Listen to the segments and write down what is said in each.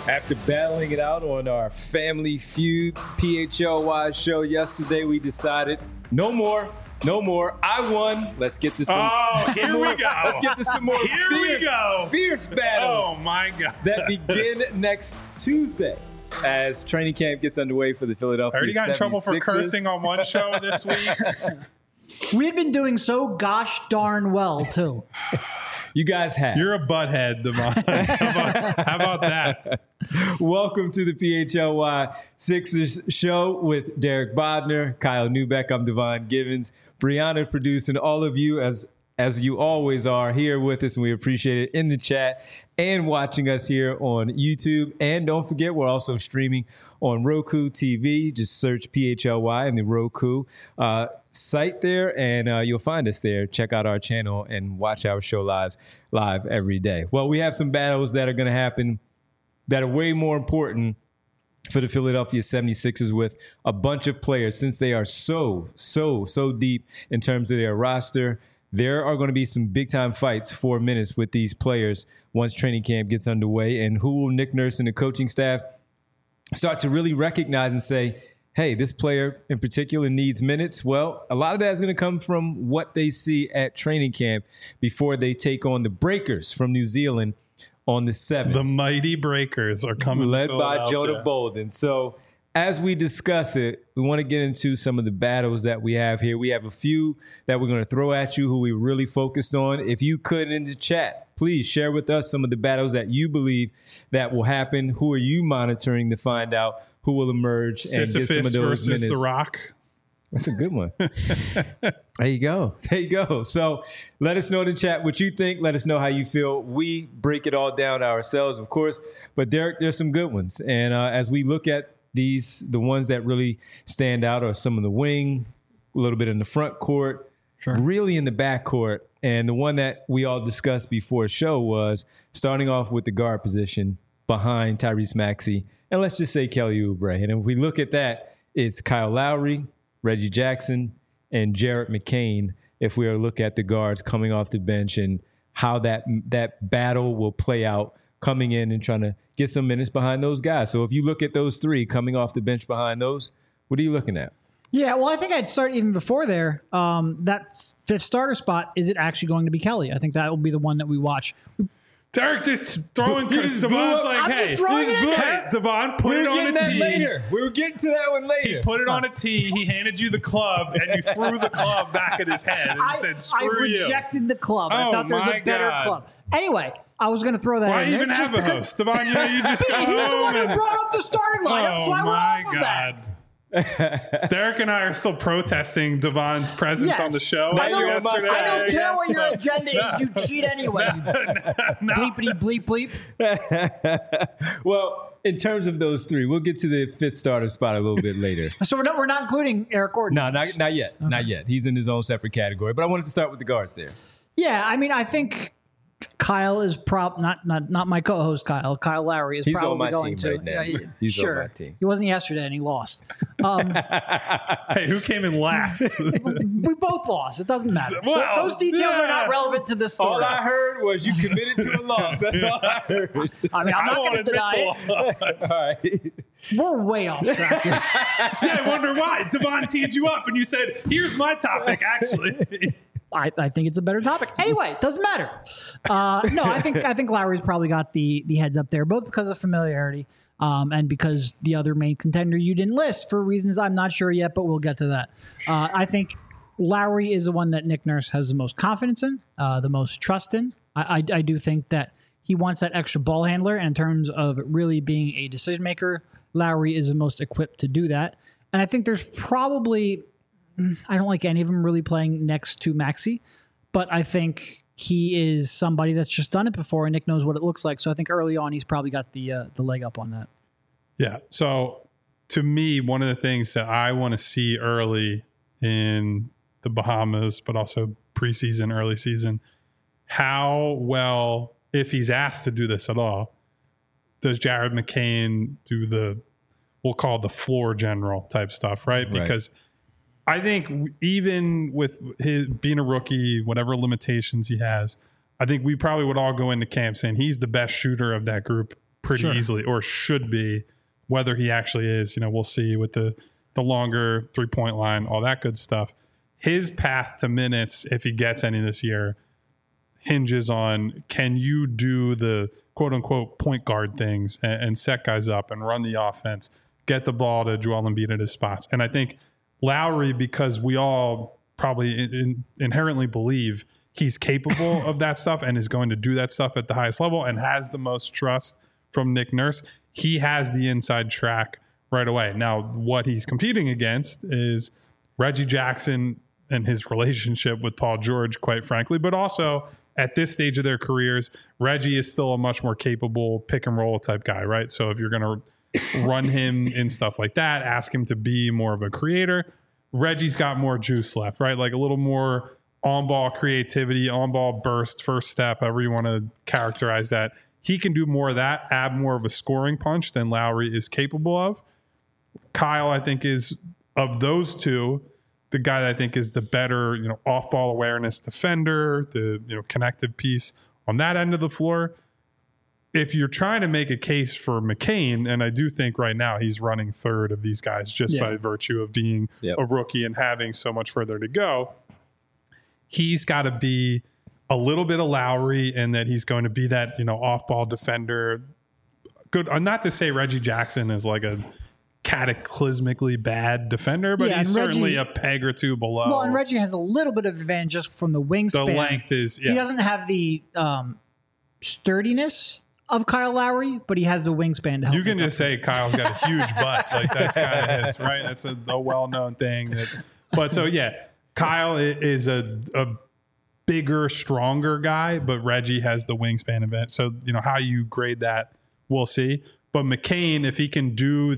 After battling it out on our Family Feud PHLY show yesterday, we decided no more. I won. Let's get to some. Here we go. Let's get to some more. Fierce battles. Oh my God. That begin next Tuesday as training camp gets underway for the Philadelphia 76ers. I already got in trouble for cursing on one show this week. We had been doing so gosh darn well too. You guys have. You're a butthead, Devon. How about that? Welcome to the PHLY Sixers show with Derek Bodner, Kyle Newbeck. I'm Devon Givens. Brianna producing, all of you as you always are here with us, and we appreciate it in the chat and watching us here on YouTube. And don't forget, we're also streaming on Roku TV. Just search PHLY in the Roku site there, and you'll find us there. Check out our channel and watch our show live every day. Well, we have some battles that are going to happen that are way more important for the Philadelphia 76ers with a bunch of players, since they are so deep in terms of their roster. There are going to be some big-time fights for minutes with these players once training camp gets underway. And who will Nick Nurse and the coaching staff start to really recognize and say, hey, this player in particular needs minutes? Well, a lot of that is going to come from what they see at training camp before they take on the Breakers from New Zealand on the 7th. The mighty Breakers are coming, led by Jonah Bolden. So as we discuss it, we want to get into some of the battles that we have here. We have a few that we're going to throw at you who we really focused on. If you could, in the chat, please share with us some of the battles that you believe that will happen. Who are you monitoring to find out who will emerge and get some of those versus minutes? The Rock. That's a good one. There you go. So let us know in the chat what you think. Let us know how you feel. We break it all down ourselves, of course. But Derek, there's some good ones. And as we look at these, the ones that really stand out are some of the wing, a little bit in the front court, really in the back court. And the one that we all discussed before the show was starting off with the guard position behind Tyrese Maxey. And let's just say Kelly Oubre. And if we look at that, it's Kyle Lowry, Reggie Jackson, and Jarrett McCain, if we are look at the guards coming off the bench and how that battle will play out coming in and trying to get some minutes behind those guys. So if you look at those three coming off the bench behind those, what are you looking at? Yeah, well, I think I'd start even before there. That fifth starter spot, is it actually going to be Kelly? I think that will be the one that we watch. Derek just throwing Devon's like, I'm hey, just throwing it in hey, Devon, put it on a tee. Later. We were getting to that one later. He put it on a tee. He handed you the club, and you threw the club back at his head and said, screw you. I rejected the club. I thought there was a better club. Anyway, I was going to throw that Why in there. Why even have a host? Devon, you just go He's the home. one who brought up the starting lineup, so I went off of that. Derek and I are still protesting Devon's presence on the show. I don't care what your agenda is. You cheat anyway. Bleepity bleep bleep. Well, in terms of those three, we'll get to the fifth starter spot a little bit later. So we're not including Eric Gordon. No, not yet. Okay. Not yet. He's in his own separate category. But I wanted to start with the guards there. Yeah, I mean, I think Kyle is not my co-host Kyle. Kyle Lowry is probably going to. He's on my team right now. He's on my team. He wasn't yesterday and he lost. Hey, who came in last? We both lost. It doesn't matter. Well, those details are not relevant to this story. All I heard was you committed to a loss. That's all I heard. I mean, I'm not going to deny it. All right. We're way off track here. Yeah, I wonder why. Devon teed you up and you said, here's my topic, actually. I think it's a better topic. Anyway, it doesn't matter. No, I think Lowry's probably got the heads up there, both because of familiarity and because the other main contender you didn't list for reasons I'm not sure yet, but we'll get to that. I think Lowry is the one that Nick Nurse has the most confidence in, the most trust in. I do think that he wants that extra ball handler, and in terms of really being a decision maker, Lowry is the most equipped to do that. And I think there's probably, I don't like any of them really playing next to Maxey, but I think he is somebody that's just done it before, and Nick knows what it looks like. So I think early on, he's probably got the leg up on that. Yeah. So to me, one of the things that I want to see early in the Bahamas, but also preseason, early season, how well, if he's asked to do this at all, does Jared McCain do the, we'll call it the floor general type stuff, right? Because I think even with his being a rookie, whatever limitations he has, I think we probably would all go into camp saying he's the best shooter of that group pretty easily, or should be. Whether he actually is, we'll see with the longer 3-point line, all that good stuff. His path to minutes, if he gets any this year, hinges on, can you do the quote unquote point guard things and set guys up and run the offense, get the ball to Joel Embiid at his spots. And I think Lowry, because we all probably inherently believe he's capable of that stuff and is going to do that stuff at the highest level and has the most trust from Nick Nurse, he has the inside track right away. Now, what he's competing against is Reggie Jackson and his relationship with Paul George, quite frankly, but also at this stage of their careers, Reggie is still a much more capable pick and roll type guy, right? So if you're going to run him in stuff like that, ask him to be more of a creator, Reggie's got more juice left, right? Like a little more on-ball creativity, on-ball burst, first step, however you want to characterize that. He can do more of that, add more of a scoring punch than Lowry is capable of. Kyle, I think, is, of those two, the guy that I think is the better, off-ball awareness defender, the connective piece on that end of the floor. If you're trying to make a case for McCain, and I do think right now he's running third of these guys just by virtue of being a rookie and having so much further to go, he's got to be a little bit of Lowry, and that he's going to be that, off-ball defender. Good. Not to say Reggie Jackson is like a cataclysmically bad defender, but he's certainly a peg or two below. Well, and Reggie has a little bit of advantage just from the wingspan. The length is, He doesn't have the sturdiness of Kyle Lowry, but he has the wingspan to help. You can just say Kyle's got a huge butt. Like, that's kind of his, right? That's a well-known thing. Kyle is a bigger, stronger guy, but Reggie has the wingspan event. So, how you grade that, we'll see. But McCain, if he can do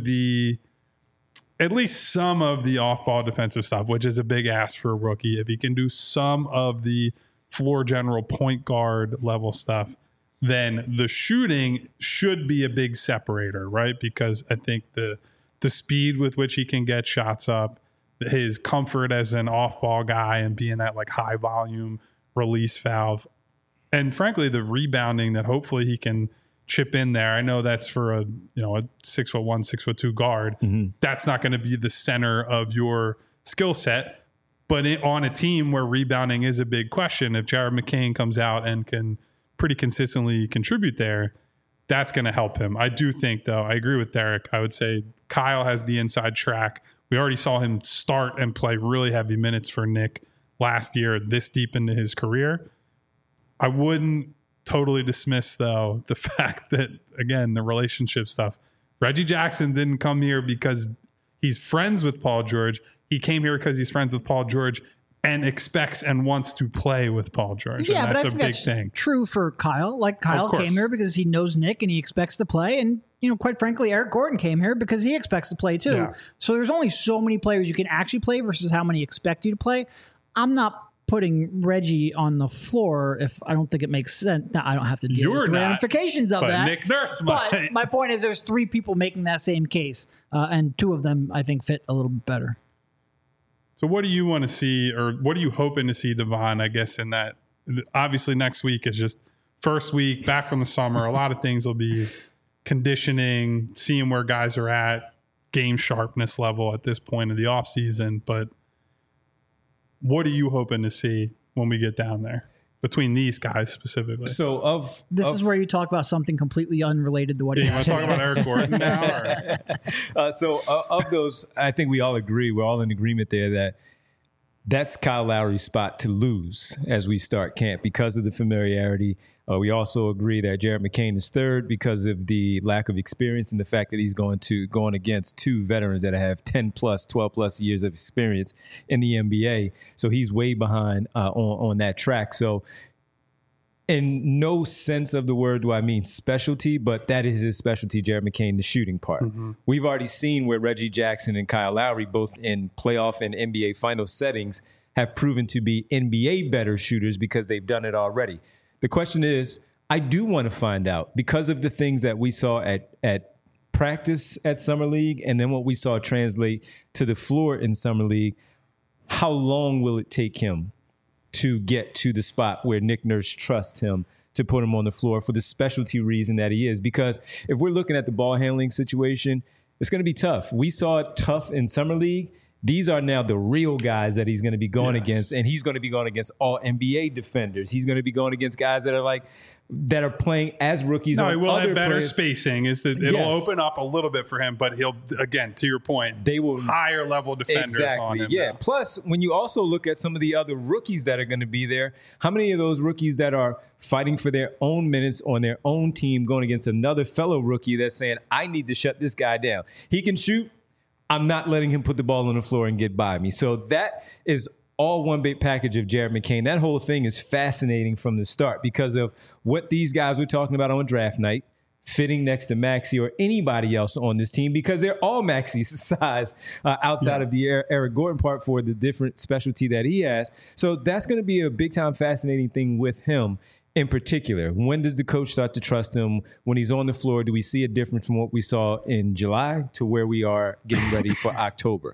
at least some of the off-ball defensive stuff, which is a big ask for a rookie, if he can do some of the floor general point guard level stuff, then the shooting should be a big separator, right? Because I think the speed with which he can get shots up, his comfort as an off-ball guy and being that like high volume release valve, and frankly the rebounding that hopefully he can chip in there. I know that's for a 6'1", 6'2" guard. Mm-hmm. That's not going to be the center of your skill set, but on a team where rebounding is a big question, if Jared McCain comes out and can pretty consistently contribute there, that's going to help him. I do think, though, I agree with Derek. I would say Kyle has the inside track. We already saw him start and play really heavy minutes for Nick last year, this deep into his career. I wouldn't totally dismiss, though, the fact that, again, the relationship stuff. Reggie Jackson didn't come here because he's friends with Paul George. He came here because he's friends with Paul George and expects and wants to play with Paul George. Yeah, and that's but I think a big that's thing. True for Kyle. Like, Kyle came here because he knows Nick and he expects to play. And, quite frankly, Eric Gordon came here because he expects to play too. Yeah. So there's only so many players you can actually play versus how many expect you to play. I'm not putting Reggie on the floor if I don't think it makes sense. Now, I don't have to deal with the ramifications of that. Nick Nurse might. But my point is there's three people making that same case, and two of them I think fit a little bit better. So what do you want to see, or what are you hoping to see, Devon, I guess, in that? Obviously, next week is just first week, back from the summer. A lot of things will be conditioning, seeing where guys are at, game sharpness level at this point of the offseason. But what are you hoping to see when we get down there between these guys specifically? So this is where you talk about something completely unrelated to what you want to talk about Eric Gordon now? Or? Of those, I think we all agree, we're all in agreement there that that's Kyle Lowry's spot to lose as we start camp because of the familiarity. We also agree that Jared McCain is third because of the lack of experience and the fact that he's going against two veterans that have 10 plus, 12 plus years of experience in the NBA. So he's way behind on that track. So in no sense of the word do I mean specialty, but that is his specialty, Jared McCain, the shooting part. Mm-hmm. We've already seen where Reggie Jackson and Kyle Lowry, both in playoff and NBA final settings, have proven to be NBA better shooters because they've done it already. The question is, I do want to find out, because of the things that we saw at practice at Summer League and then what we saw translate to the floor in Summer League, how long will it take him to get to the spot where Nick Nurse trusts him to put him on the floor for the specialty reason that he is. Because if we're looking at the ball handling situation, it's going to be tough. We saw it tough in Summer League. These are now the real guys that he's going to be going against, and he's going to be going against all NBA defenders. He's going to be going against guys that are playing as rookies. No, he will have better players. Spacing. It'll open up a little bit for him, but he'll, again, to your point, they will higher level defenders on him. Yeah. Now. Plus, when you also look at some of the other rookies that are going to be there, how many of those rookies that are fighting for their own minutes on their own team going against another fellow rookie that's saying, I need to shut this guy down. He can shoot. I'm not letting him put the ball on the floor and get by me. So that is all one big package of Jared McCain. That whole thing is fascinating from the start because of what these guys were talking about on draft night, fitting next to Maxey or anybody else on this team, because they're all Maxey's size outside of the Eric Gordon part for the different specialty that he has. So that's going to be a big time fascinating thing with him. In particular, when does the coach start to trust him? When he's on the floor, do we see a difference from what we saw in July to where we are getting ready for October?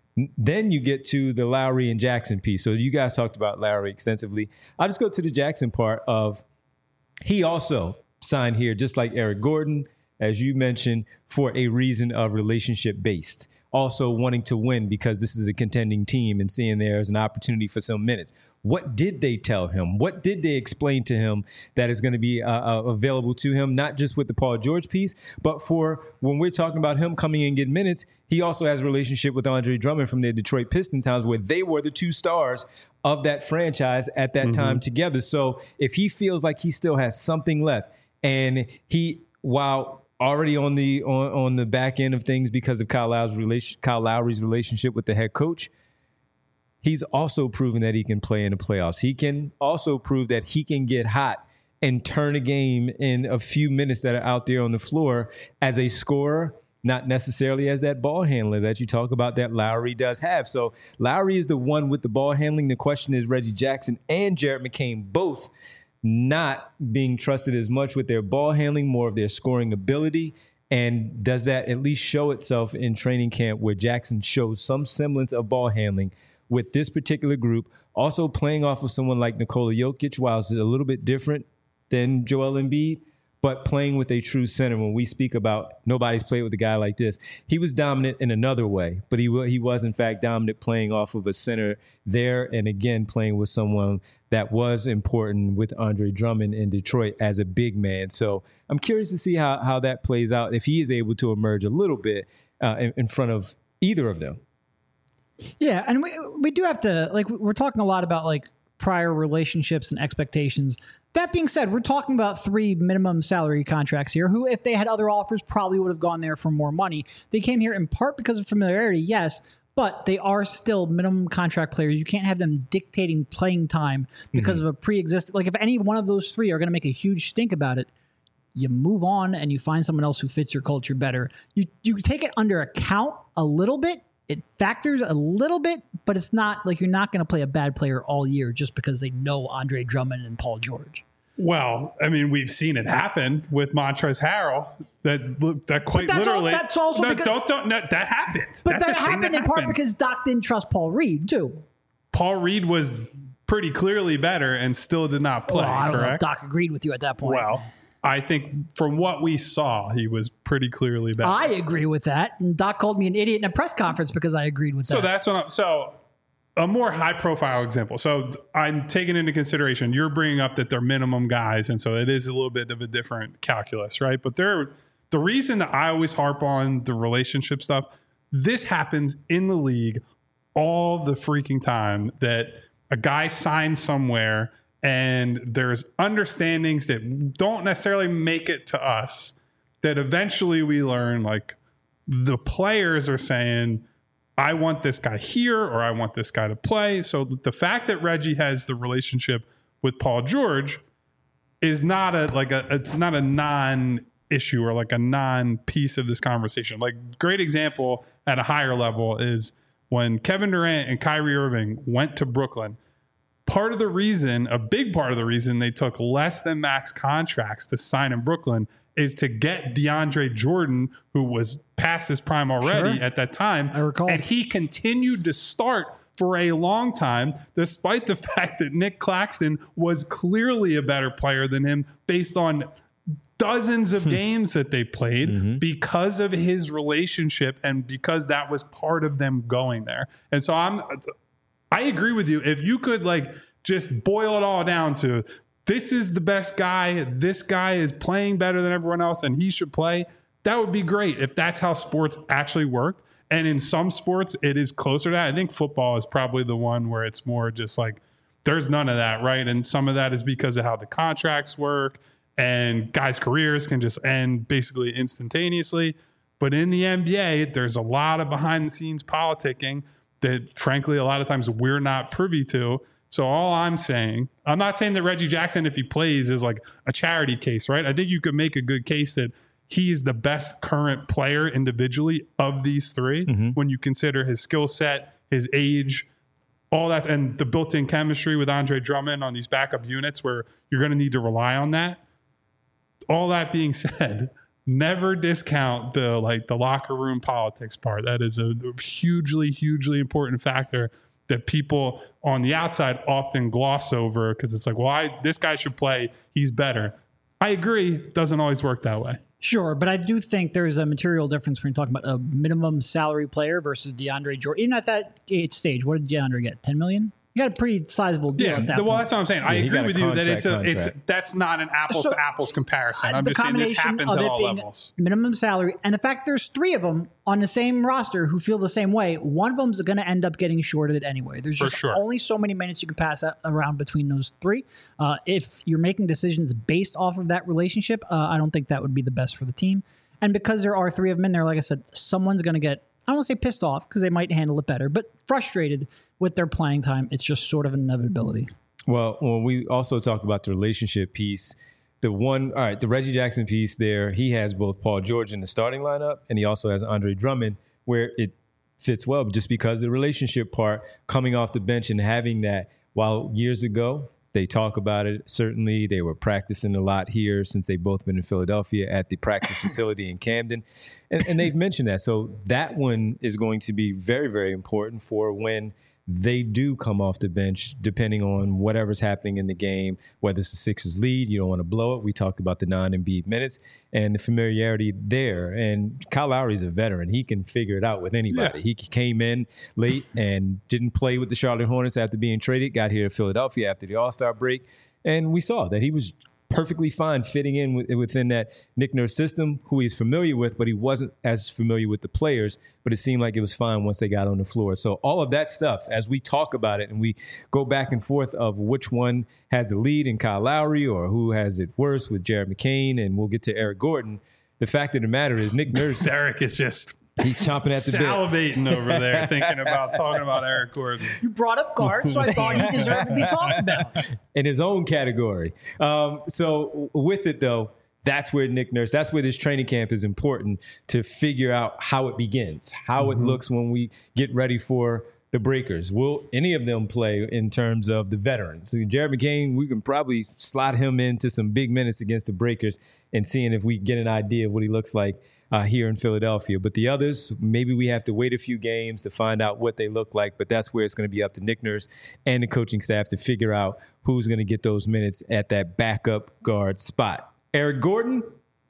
Then you get to the Lowry and Jackson piece. So you guys talked about Lowry extensively. I'll just go to the Jackson part of he also signed here, just like Eric Gordon, as you mentioned, for a reason of relationship based. Also wanting to win because this is a contending team and seeing there as an opportunity for some minutes. What did they tell him? What did they explain to him that is going to be available to him, not just with the Paul George piece, but for when we're talking about him coming in and getting minutes, he also has a relationship with Andre Drummond from the Detroit Pistons times where they were the two stars of that franchise at that time together. So if he feels like he still has something left and he, while already on the back end of things because of Kyle Lowry's relationship with the head coach, he's also proven that he can play in the playoffs. He can also prove that he can get hot and turn a game in a few minutes that are out there on the floor as a scorer, not necessarily as that ball handler that you talk about that Lowry does have. So Lowry is the one with the ball handling. The question is Reggie Jackson and Jared McCain both not being trusted as much with their ball handling, more of their scoring ability. And does that at least show itself in training camp where Jackson shows some semblance of ball handling with this particular group, also playing off of someone like Nikola Jokic, while it's a little bit different than Joel Embiid, but playing with a true center. When we speak about nobody's played with a guy like this, he was dominant in another way, but he was in fact dominant playing off of a center there, and again playing with someone that was important with Andre Drummond in Detroit as a big man. So I'm curious to see how that plays out if he is able to emerge a little bit in front of either of them. Yeah, and we do have to, like, we're talking a lot about like prior relationships and expectations. That being said, we're talking about 3 minimum salary contracts here who, if they had other offers, probably would have gone there for more money. They came here in part because of familiarity, yes, but they are still minimum contract players. You can't have them dictating playing time because of a pre-existing. Like, if any one of those 3 are going to make a huge stink about it, you move on and you find someone else who fits your culture better. You take it under account a little bit. It factors a little bit, but it's not like you're not going to play a bad player all year just because they know Andre Drummond and Paul George. Well, I mean, we've seen it happen with Montrezl Harrell. That quite literally. That's also no, because, no, that happened. But that's that happened in part because Doc didn't trust Paul Reed too. Paul Reed was pretty clearly better and still did not play. Well, I don't know if correct? Doc agreed with you at that point. Well, I think from what we saw, he was pretty clearly better. I agree with that. And Doc called me an idiot in a press conference because I agreed with that. So that's what so a more high profile example. So I'm taking into consideration, you're bringing up that they're minimum guys. And so it is a little bit of a different calculus, right? But the reason that I always harp on the relationship stuff, this happens in the league all the freaking time, that a guy signs somewhere and there's understandings that don't necessarily make it to us, that eventually we learn, like, the players are saying, I want this guy here, or I want this guy to play. So the fact that Reggie has the relationship with Paul George is not it's not a non-issue or like a non-piece of this conversation. Like, great example at a higher level is when Kevin Durant and Kyrie Irving went to Brooklyn. A big part of the reason they took less than max contracts to sign in Brooklyn is to get DeAndre Jordan, who was past his prime already at that time. I recall. And he continued to start for a long time, despite the fact that Nick Claxton was clearly a better player than him based on dozens of games that they played because of his relationship and because that was part of them going there. And so I agree with you. If you could like just boil it all down to this is the best guy, this guy is playing better than everyone else and he should play, that would be great if that's how sports actually worked. And in some sports, it is closer to that. I think football is probably the one where it's more just like there's none of that, right? And some of that is because of how the contracts work and guys' careers can just end basically instantaneously. But in the NBA, there's a lot of behind-the-scenes politicking that, frankly, a lot of times we're not privy to. So all I'm saying, I'm not saying that Reggie Jackson, if he plays, is like a charity case, right? I think you could make a good case that he's the best current player individually of these three when you consider his skill set, his age, all that, and the built-in chemistry with Andre Drummond on these backup units where you're going to need to rely on that. All that being said, never discount the locker room politics part. That is a hugely, hugely important factor that people on the outside often gloss over because it's like, well, this guy should play. He's better. I agree. It doesn't always work that way. Sure, but I do think there's a material difference when you're talking about a minimum salary player versus DeAndre Jordan. Even at that stage, what did DeAndre get? $10 million? You got a pretty sizable deal at that point. Well, that's what I'm saying. I agree with you that that's not an apples to apples comparison. I'm just saying this happens at all levels. Minimum salary, and the fact there's three of them on the same roster who feel the same way. One of them is going to end up getting shorted anyway. There's just only so many minutes you can pass around between those three. If you're making decisions based off of that relationship, I don't think that would be the best for the team. And because there are three of them in there, like I said, someone's going to get, I don't want to say pissed off because they might handle it better, but frustrated with their playing time. It's just sort of an inevitability. Well, when we also talk about the relationship piece, the Reggie Jackson piece there, he has both Paul George in the starting lineup and he also has Andre Drummond where it fits well just because of the relationship part coming off the bench and having that. While years ago, they talk about it. Certainly, they were practicing a lot here since they've both been in Philadelphia at the practice facility in Camden. And they've mentioned that. So that one is going to be very, very important for when they do come off the bench, depending on whatever's happening in the game, whether it's the Sixers lead, you don't want to blow it. We talked about the non-Embiid minutes and the familiarity there. And Kyle Lowry's a veteran. He can figure it out with anybody. Yeah. He came in late and didn't play with the Charlotte Hornets after being traded, got here to Philadelphia after the All-Star break. And we saw that he was perfectly fine fitting in within that Nick Nurse system, who he's familiar with, but he wasn't as familiar with the players. But it seemed like it was fine once they got on the floor. So all of that stuff, as we talk about it and we go back and forth of which one has the lead in Kyle Lowry or who has it worse with Jared McCain, and we'll get to Eric Gordon. The fact of the matter is Nick Nurse. Eric is just... He's chomping at the bit. Salivating over there, thinking about talking about Eric Gordon. You brought up guard, so I thought he deserved to be talked about. In his own category. So with it, though, that's where Nick Nurse, that's where this training camp is important to figure out how it begins, how it looks when we get ready for the breakers. Will any of them play in terms of the veterans? So Jared McCain, we can probably slot him into some big minutes against the breakers and seeing if we get an idea of what he looks like here in Philadelphia. But the others, maybe we have to wait a few games to find out what they look like. But that's where it's going to be up to Nick Nurse and the coaching staff to figure out who's going to get those minutes at that backup guard spot. Eric Gordon?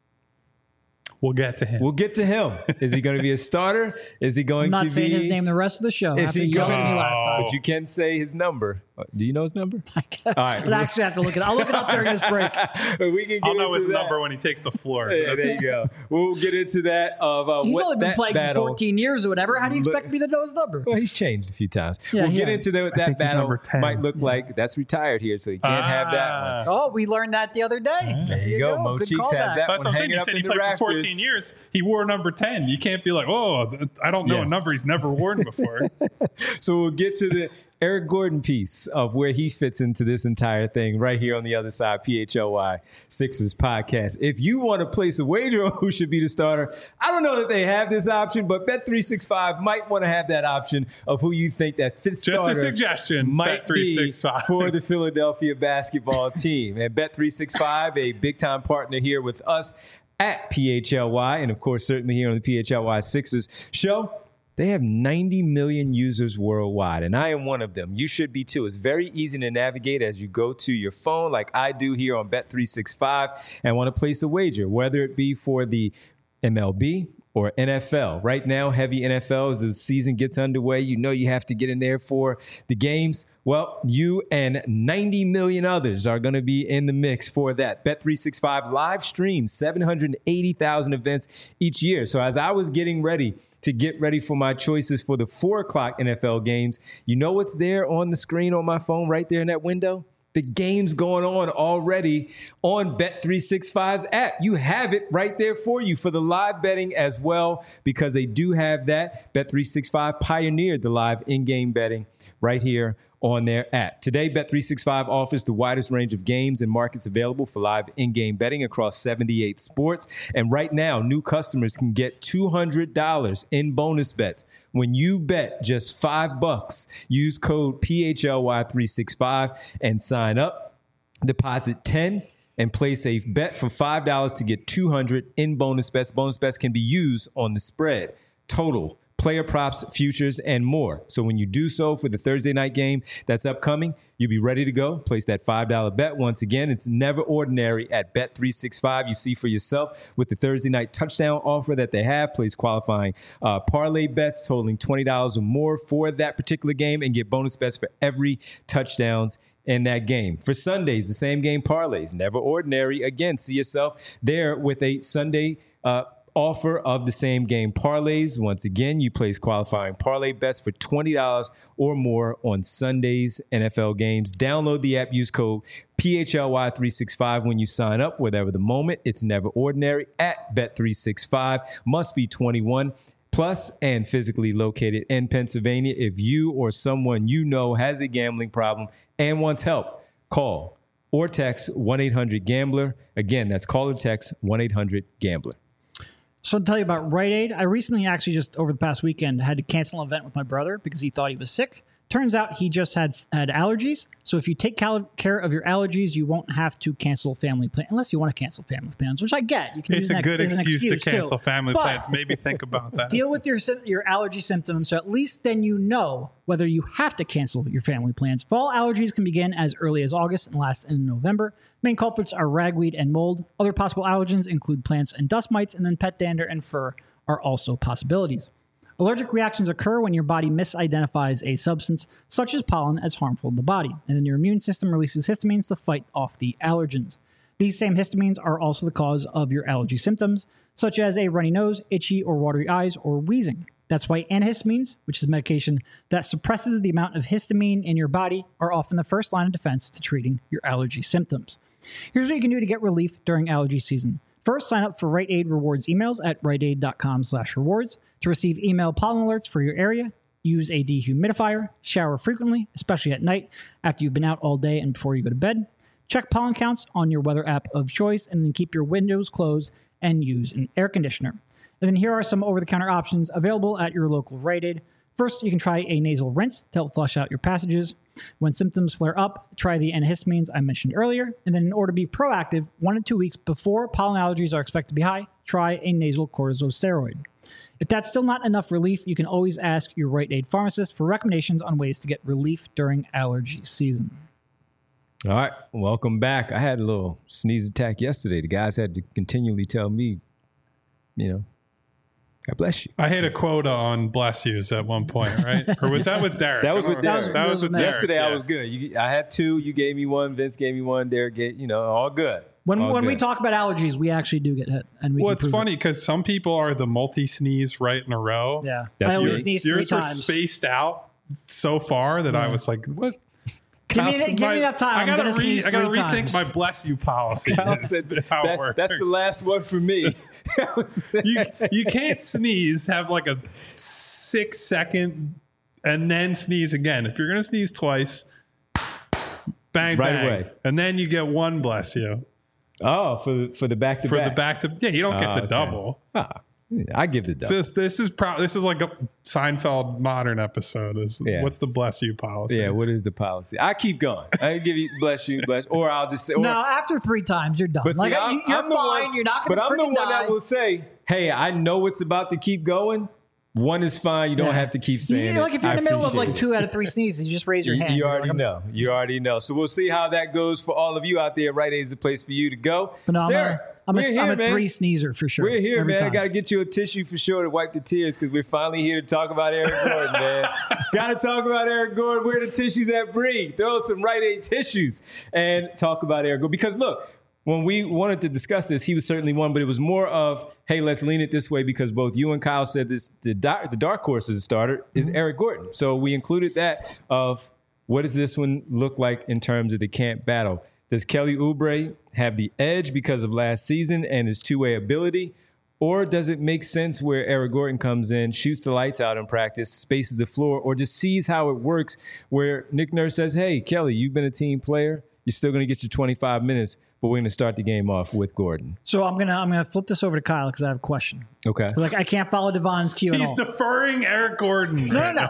We'll get to him. We'll get to him. Is he going to be a starter? Is he going to be... I'm not saying his name the rest of the show. Is he yelling at me last time. But you can say his number. Do you know his number? All right. I actually have to look it up. I'll look it up during this break. I'll know his number when he takes the floor. Yeah, there you go. We'll get into that. He's only been playing for 14 years or whatever. How do you expect me to know his number? Well, he's changed a few times. Yeah, we'll get into what that battle might look like. That's retired here, so he can't have that one. Oh, we learned that the other day. There you go. Mo Cheeks has that one. That's what I'm saying. You said he played for 14 years. He wore number 10. You can't be like, oh, I don't know a number he's never worn before. So we'll get to the Eric Gordon piece of where he fits into this entire thing right here on the other side, PHLY Sixers podcast. If you want to place a wager on who should be the starter, I don't know that they have this option, but Bet365 might want to have that option of who you think that fifth starter just a suggestion, might be for the Philadelphia basketball team. And Bet365, a big-time partner here with us at PHLY, and of course, certainly here on the PHLY Sixers show. They have 90 million users worldwide, and I am one of them. You should be too. It's very easy to navigate as you go to your phone like I do here on Bet365 and want to place a wager, whether it be for the MLB or NFL. Right now, heavy NFL as the season gets underway. You know you have to get in there for the games. Well, you and 90 million others are going to be in the mix for that. Bet365 live streams 780,000 events each year. So as I was getting ready for my choices for the 4 o'clock NFL games, you know what's there on the screen on my phone right there in that window? The game's going on already on Bet365's app. You have it right there for you for the live betting as well, because they do have that. Bet365 pioneered the live in-game betting right here on their app. Today, Bet365 offers the widest range of games and markets available for live in-game betting across 78 sports. And right now, new customers can get $200 in bonus bets when you bet just $5. Use code PHLY365 and sign up. Deposit $10 and place a bet for $5 to get $200 in bonus bets. Bonus bets can be used on the spread, total, player props, futures, and more. So when you do so for the Thursday night game that's upcoming, you'll be ready to go. Place that $5 bet. Once again, it's never ordinary at Bet365. You see for yourself with the Thursday night touchdown offer that they have. Place qualifying parlay bets totaling $20 or more for that particular game and get bonus bets for every touchdowns in that game. For Sundays, the same game parlays, never ordinary. Again, see yourself there with a Sunday offer of the same game parlays. Once again, you place qualifying parlay bets for $20 or more on Sunday's NFL games. Download the app, use code PHLY365 when you sign up. Whatever the moment, it's never ordinary at Bet365. Must be 21 plus and physically located in Pennsylvania. If you or someone you know has a gambling problem and wants help, call or text 1-800-GAMBLER. Again, that's call or text 1-800-GAMBLER. So I'll tell you about Rite Aid. I recently actually just over the past weekend had to cancel an event with my brother because he thought he was sick. Turns out he just had allergies. So if you take care of your allergies, you won't have to cancel family plans, unless you want to cancel family plans, which I get. You can it's a good excuse to cancel family plans. Maybe think about that. Deal with your allergy symptoms, so at least then you know whether you have to cancel your family plans. Fall allergies can begin as early as August and last in November. Main culprits are ragweed and mold. Other possible allergens include plants and dust mites, and then pet dander and fur are also possibilities. Allergic reactions occur when your body misidentifies a substance, such as pollen, as harmful to the body, and then your immune system releases histamines to fight off the allergens. These same histamines are also the cause of your allergy symptoms, such as a runny nose, itchy or watery eyes, or wheezing. That's why antihistamines, which is medication that suppresses the amount of histamine in your body, are often the first line of defense to treating your allergy symptoms. Here's what you can do to get relief during allergy season. First, sign up for Rite Aid Rewards emails at riteaid.com/rewards to receive email pollen alerts for your area. Use a dehumidifier. Shower frequently, especially at night after you've been out all day and before you go to bed. Check pollen counts on your weather app of choice, and then keep your windows closed and use an air conditioner. And then here are some over-the-counter options available at your local Rite Aid. First, you can try a nasal rinse to help flush out your passages. When symptoms flare up, try the antihistamines I mentioned earlier. And then in order to be proactive, 1 to 2 weeks before pollen allergies are expected to be high, try a nasal corticosteroid. If that's still not enough relief, you can always ask your Rite Aid pharmacist for recommendations on ways to get relief during allergy season. All right, welcome back. I had a little sneeze attack yesterday. The guys had to continually tell me, God bless you. I hit a quota on bless yous at one point, right? Or was that with Derek? That was with Derek. That was with Derek. Yesterday I was good. I had 2. You gave me 1. Vince gave me 1. Derek gave, all good. When we talk about allergies, we actually do get hit. And it's funny because some people are the multi-sneeze right in a row. Yeah. I always sneeze 3 times. Yours were spaced out so far that I was like, what? Give me enough time. I gotta rethink my bless you policy. How it works. That's the last one for me. You can't sneeze, have like a 6-second, and then sneeze again. If you're gonna sneeze twice, bang, right bang, away, and then you get 1 bless you. Oh, for the back to back. For the back to you don't get the double. I give the double. This is like a Seinfeld modern episode. What's the bless you policy? Yeah, what is the policy? I keep going. I give you bless you, or I'll just say. No, after 3 times you're done. But see, you're fine. You're not going to. But I'm the one that will say, "Hey, I know it's about to keep going. One is fine. You don't have to keep saying it. Like if you're in the middle of like appreciate 2 out of 3 sneezes, you just raise your hand. You already know. You already know. So we'll see how that goes for all of you out there. Rite Aid is the place for you to go. But no, I'm a man. 3 sneezer for sure. We're here, every man. time. Got to get you a tissue for sure to wipe the tears because we're finally here to talk about Eric Gordon, man. Got to talk about Eric Gordon. Where the tissues at, Bree? Throw some Rite Aid tissues and talk about Eric Gordon. Because look, when we wanted to discuss this, he was certainly one, but it was more of, hey, let's lean it this way because both you and Kyle said this. The dark horse as a starter is Eric Gordon. So we included that of what does this one look like in terms of the camp battle? Does Kelly Oubre have the edge because of last season and his two-way ability? Or does it make sense where Eric Gordon comes in, shoots the lights out in practice, spaces the floor, or just sees how it works where Nick Nurse says, hey, Kelly, you've been a team player. You're still going to get your 25 minutes, but we're going to start the game off with Gordon. So I'm gonna flip this over to Kyle because I have a question. Okay. Like I can't follow Devon's cue at all. He's deferring Eric Gordon. No.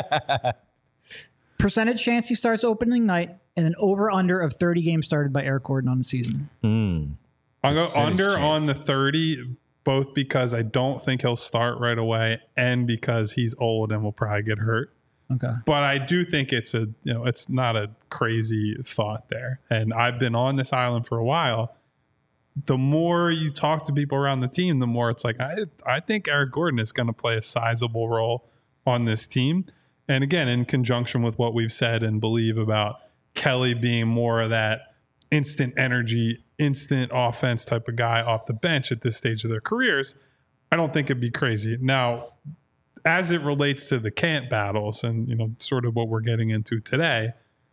Percentage chance he starts opening night, and then over/under of 30 games started by Eric Gordon on the season. I'll go Percentage under chance. on the 30, both because I don't think he'll start right away, and because he's old and will probably get hurt. Okay. But I do think it's not a crazy thought there. And I've been on this island for a while. The more you talk to people around the team, the more it's like, I think Eric Gordon is going to play a sizable role on this team. And again, in conjunction with what we've said and believe about Kelly being more of that instant energy, instant offense type of guy off the bench at this stage of their careers, I don't think it'd be crazy. Now, as it relates to the camp battles and, sort of what we're getting into today,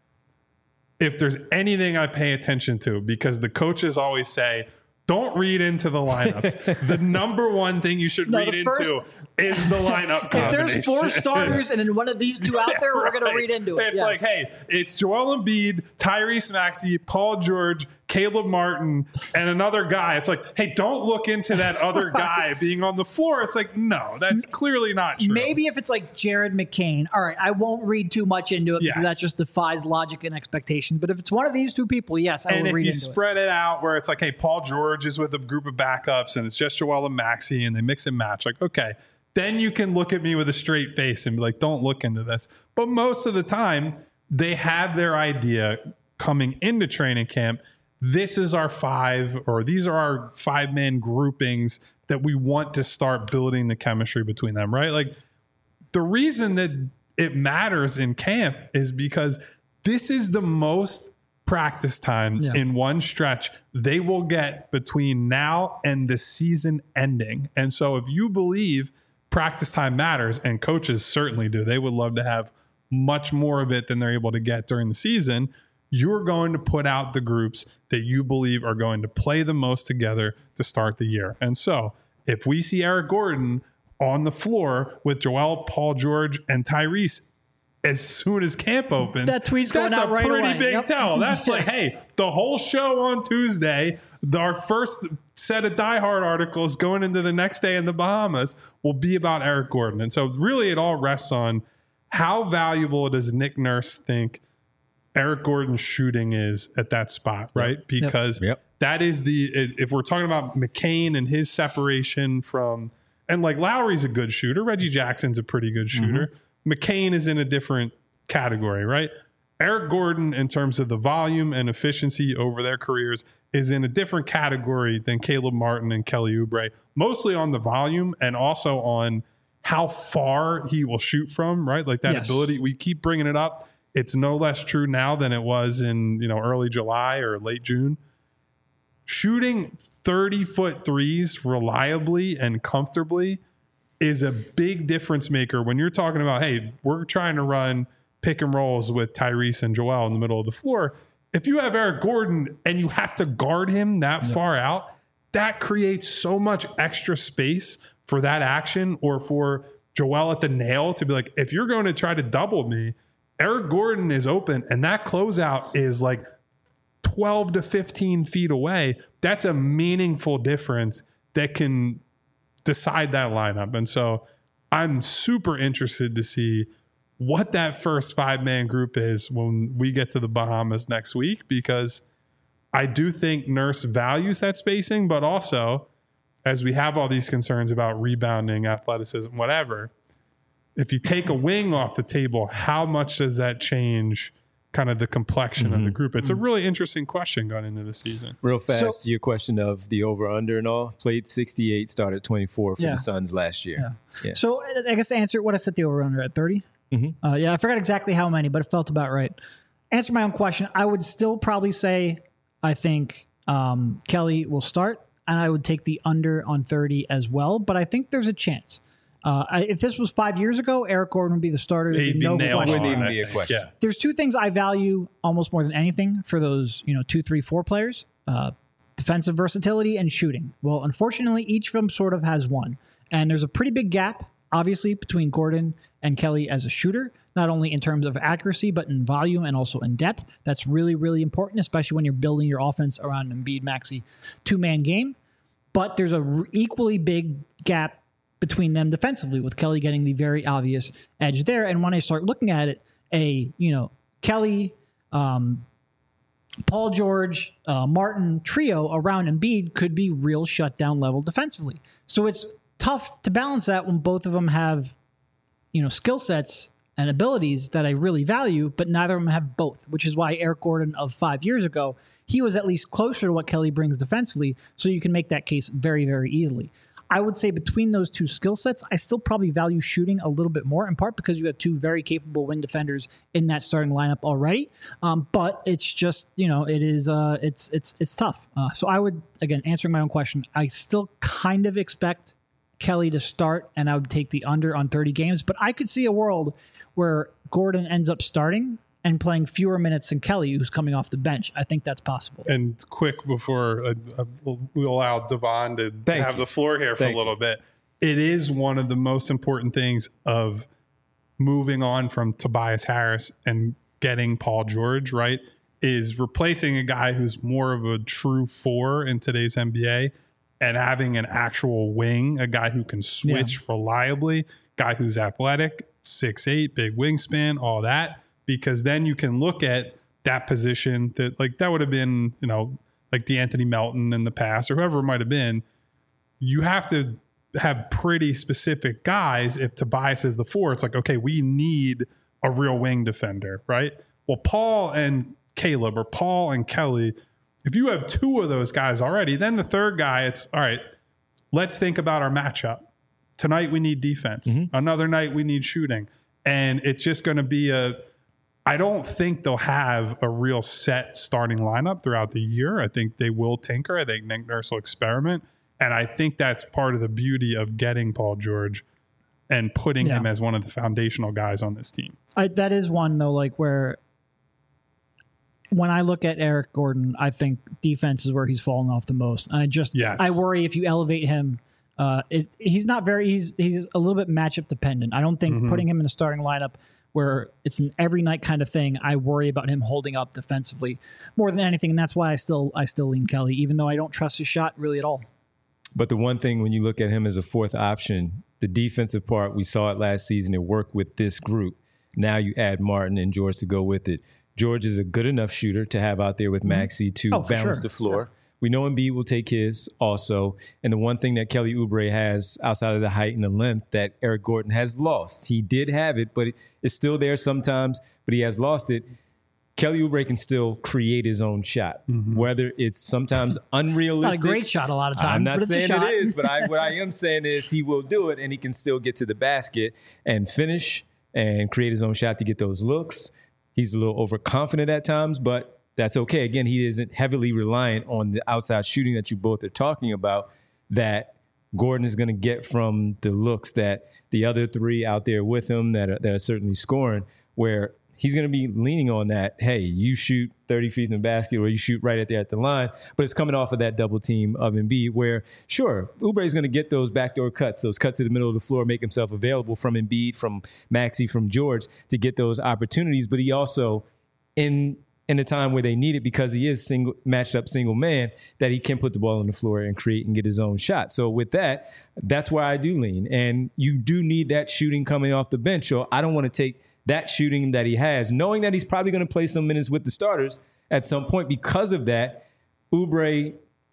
if there's anything I pay attention to, because the coaches always say, don't read into the lineups. The number one thing you should read into is the lineup combination. If there's 4 starters and then one of these 2 out there, we're going to read into it. It's like, hey, it's Joel Embiid, Tyrese Maxey, Paul George, Caleb Martin, and another guy. It's like, hey, don't look into that other guy being on the floor. It's like, no, that's clearly not true. Maybe if it's like Jared McCain, all right, I won't read too much into it because that just defies logic and expectations. But if it's one of these 2 people, yes, I will read into it. And if you spread it out where it's like, hey, Paul George is with a group of backups and it's just Joel and Maxey and they mix and match, like, okay, then you can look at me with a straight face and be like, don't look into this. But most of the time, they have their idea coming into training camp. This is our 5, or these are our 5-man groupings that we want to start building the chemistry between them, right? Like the reason that it matters in camp is because this is the most practice time in one stretch they will get between now and the season ending. And so if you believe practice time matters, and coaches certainly do, they would love to have much more of it than they're able to get during the season, you're going to put out the groups that you believe are going to play the most together to start the year. And so if we see Eric Gordon on the floor with Joel, Paul George, and Tyrese as soon as camp opens, that tweet's going out right away. That's a pretty big tell. That's like, hey, the whole show on Tuesday, our first set of Die Hard articles going into the next day in the Bahamas will be about Eric Gordon. And so really it all rests on how valuable does Nick Nurse think Eric Gordon's shooting is at that spot, right? Because that is if we're talking about McCain and his separation from, and like Lowry's a good shooter, Reggie Jackson's a pretty good shooter. McCain is in a different category, right? Eric Gordon, in terms of the volume and efficiency over their careers, is in a different category than Caleb Martin and Kelly Oubre, mostly on the volume and also on how far he will shoot from, right? Like that ability. We keep bringing it up. It's no less true now than it was in early July or late June. Shooting 30-foot threes reliably and comfortably is a big difference maker when you're talking about, hey, we're trying to run pick and rolls with Tyrese and Joel in the middle of the floor. If you have Eric Gordon and you have to guard him that far out, that creates so much extra space for that action, or for Joel at the nail to be like, if you're going to try to double me, Eric Gordon is open and that closeout is like 12 to 15 feet away. That's a meaningful difference that can decide that lineup. And so I'm super interested to see what that first 5-man group is when we get to the Bahamas next week, because I do think Nurse values that spacing, but also as we have all these concerns about rebounding, athleticism, whatever, if you take a wing off the table, how much does that change kind of the complexion of the group? It's a really interesting question going into the season. Real fast, your question of the over-under and all. Played 68, started 24 for the Suns last year. Yeah. So I guess to answer what I set the over-under at 30. Yeah, I forgot exactly how many, but it felt about right. Answer my own question. I would still probably say I think Kelly will start, and I would take the under on 30 as well, but I think there's a chance. If this was 5 years ago, Eric Gordon would be the starter. He'd be nailed on. Wouldn't even be a question. Yeah. There's two things I value almost more than anything for those 2, 3, 4 players: defensive versatility and shooting. Well, unfortunately, each of them sort of has one, and there's a pretty big gap, obviously, between Gordon and Kelly as a shooter. Not only in terms of accuracy, but in volume and also in depth. That's really, really important, especially when you're building your offense around an Embiid Maxey 2-man game. But there's a equally big gap between them defensively, with Kelly getting the very obvious edge there. And when I start looking at it, Kelly, Paul George, Martin trio around Embiid could be real shutdown level defensively. So it's tough to balance that when both of them have, skill sets and abilities that I really value, but neither of them have both, which is why Eric Gordon of 5 years ago, he was at least closer to what Kelly brings defensively. So you can make that case very, very easily. I would say between those two skill sets, I still probably value shooting a little bit more, in part because you have two very capable wing defenders in that starting lineup already. But it's just, it's tough. So I would, again, answering my own question, I still kind of expect Kelly to start, and I would take the under on 30 games. But I could see a world where Gordon ends up starting and playing fewer minutes than Kelly, who's coming off the bench. I think that's possible. And quick before we allow Devon to have the floor here for a little bit, it is one of the most important things of moving on from Tobias Harris and getting Paul George, right, is replacing a guy who's more of a true 4 in today's NBA and having an actual wing, a guy who can switch reliably, guy who's athletic, 6'8", big wingspan, all that. Because then you can look at that position that would have been, like DeAnthony Melton in the past or whoever it might have been. You have to have pretty specific guys. If Tobias is the 4, it's like, okay, we need a real wing defender, right? Well, Paul and Caleb or Paul and Kelly, if you have 2 of those guys already, then the third guy, it's all right, let's think about our matchup. Tonight we need defense. Another night we need shooting. And it's just going to be I don't think they'll have a real set starting lineup throughout the year. I think they will tinker. I think Nick Nurse will experiment. And I think that's part of the beauty of getting Paul George and putting him as one of the foundational guys on this team. That is one, though, where when I look at Eric Gordon, I think defense is where he's fallen off the most. And I worry if you elevate him. He's not he's a little bit matchup dependent. I don't think putting him in a starting lineup where it's an every night kind of thing, I worry about him holding up defensively more than anything. And that's why I still lean Kelly, even though I don't trust his shot really at all. But the one thing when you look at him as a 4th option, the defensive part, we saw it last season. It worked with this group. Now you add Martin and George to go with it. George is a good enough shooter to have out there with Maxey to balance the floor. Yeah. We know Embiid will take his also. And the one thing that Kelly Oubre has outside of the height and the length that Eric Gordon has lost. He did have it, but it's still there sometimes, but he has lost it. Kelly Oubre can still create his own shot, whether it's sometimes unrealistic. It's not a great shot a lot of times. I'm not saying it is, but what I am saying is he will do it, and he can still get to the basket and finish and create his own shot to get those looks. He's a little overconfident at times, but that's okay. Again, he isn't heavily reliant on the outside shooting that you both are talking about that Gordon is going to get from the looks that the other 3 out there with him that are certainly scoring, where he's going to be leaning on that, hey, you shoot 30 feet in the basket or you shoot right at the line, but it's coming off of that double team of Embiid where, sure, Oubre is going to get those backdoor cuts, those cuts to the middle of the floor, make himself available from Embiid, from Maxey, from George to get those opportunities, but he also, in a time where they need it because he is matched up single man, that he can put the ball on the floor and create and get his own shot. So with that, that's where I do lean. And you do need that shooting coming off the bench. So I don't want to take that shooting that he has, knowing that he's probably going to play some minutes with the starters at some point. Because of that, Oubre,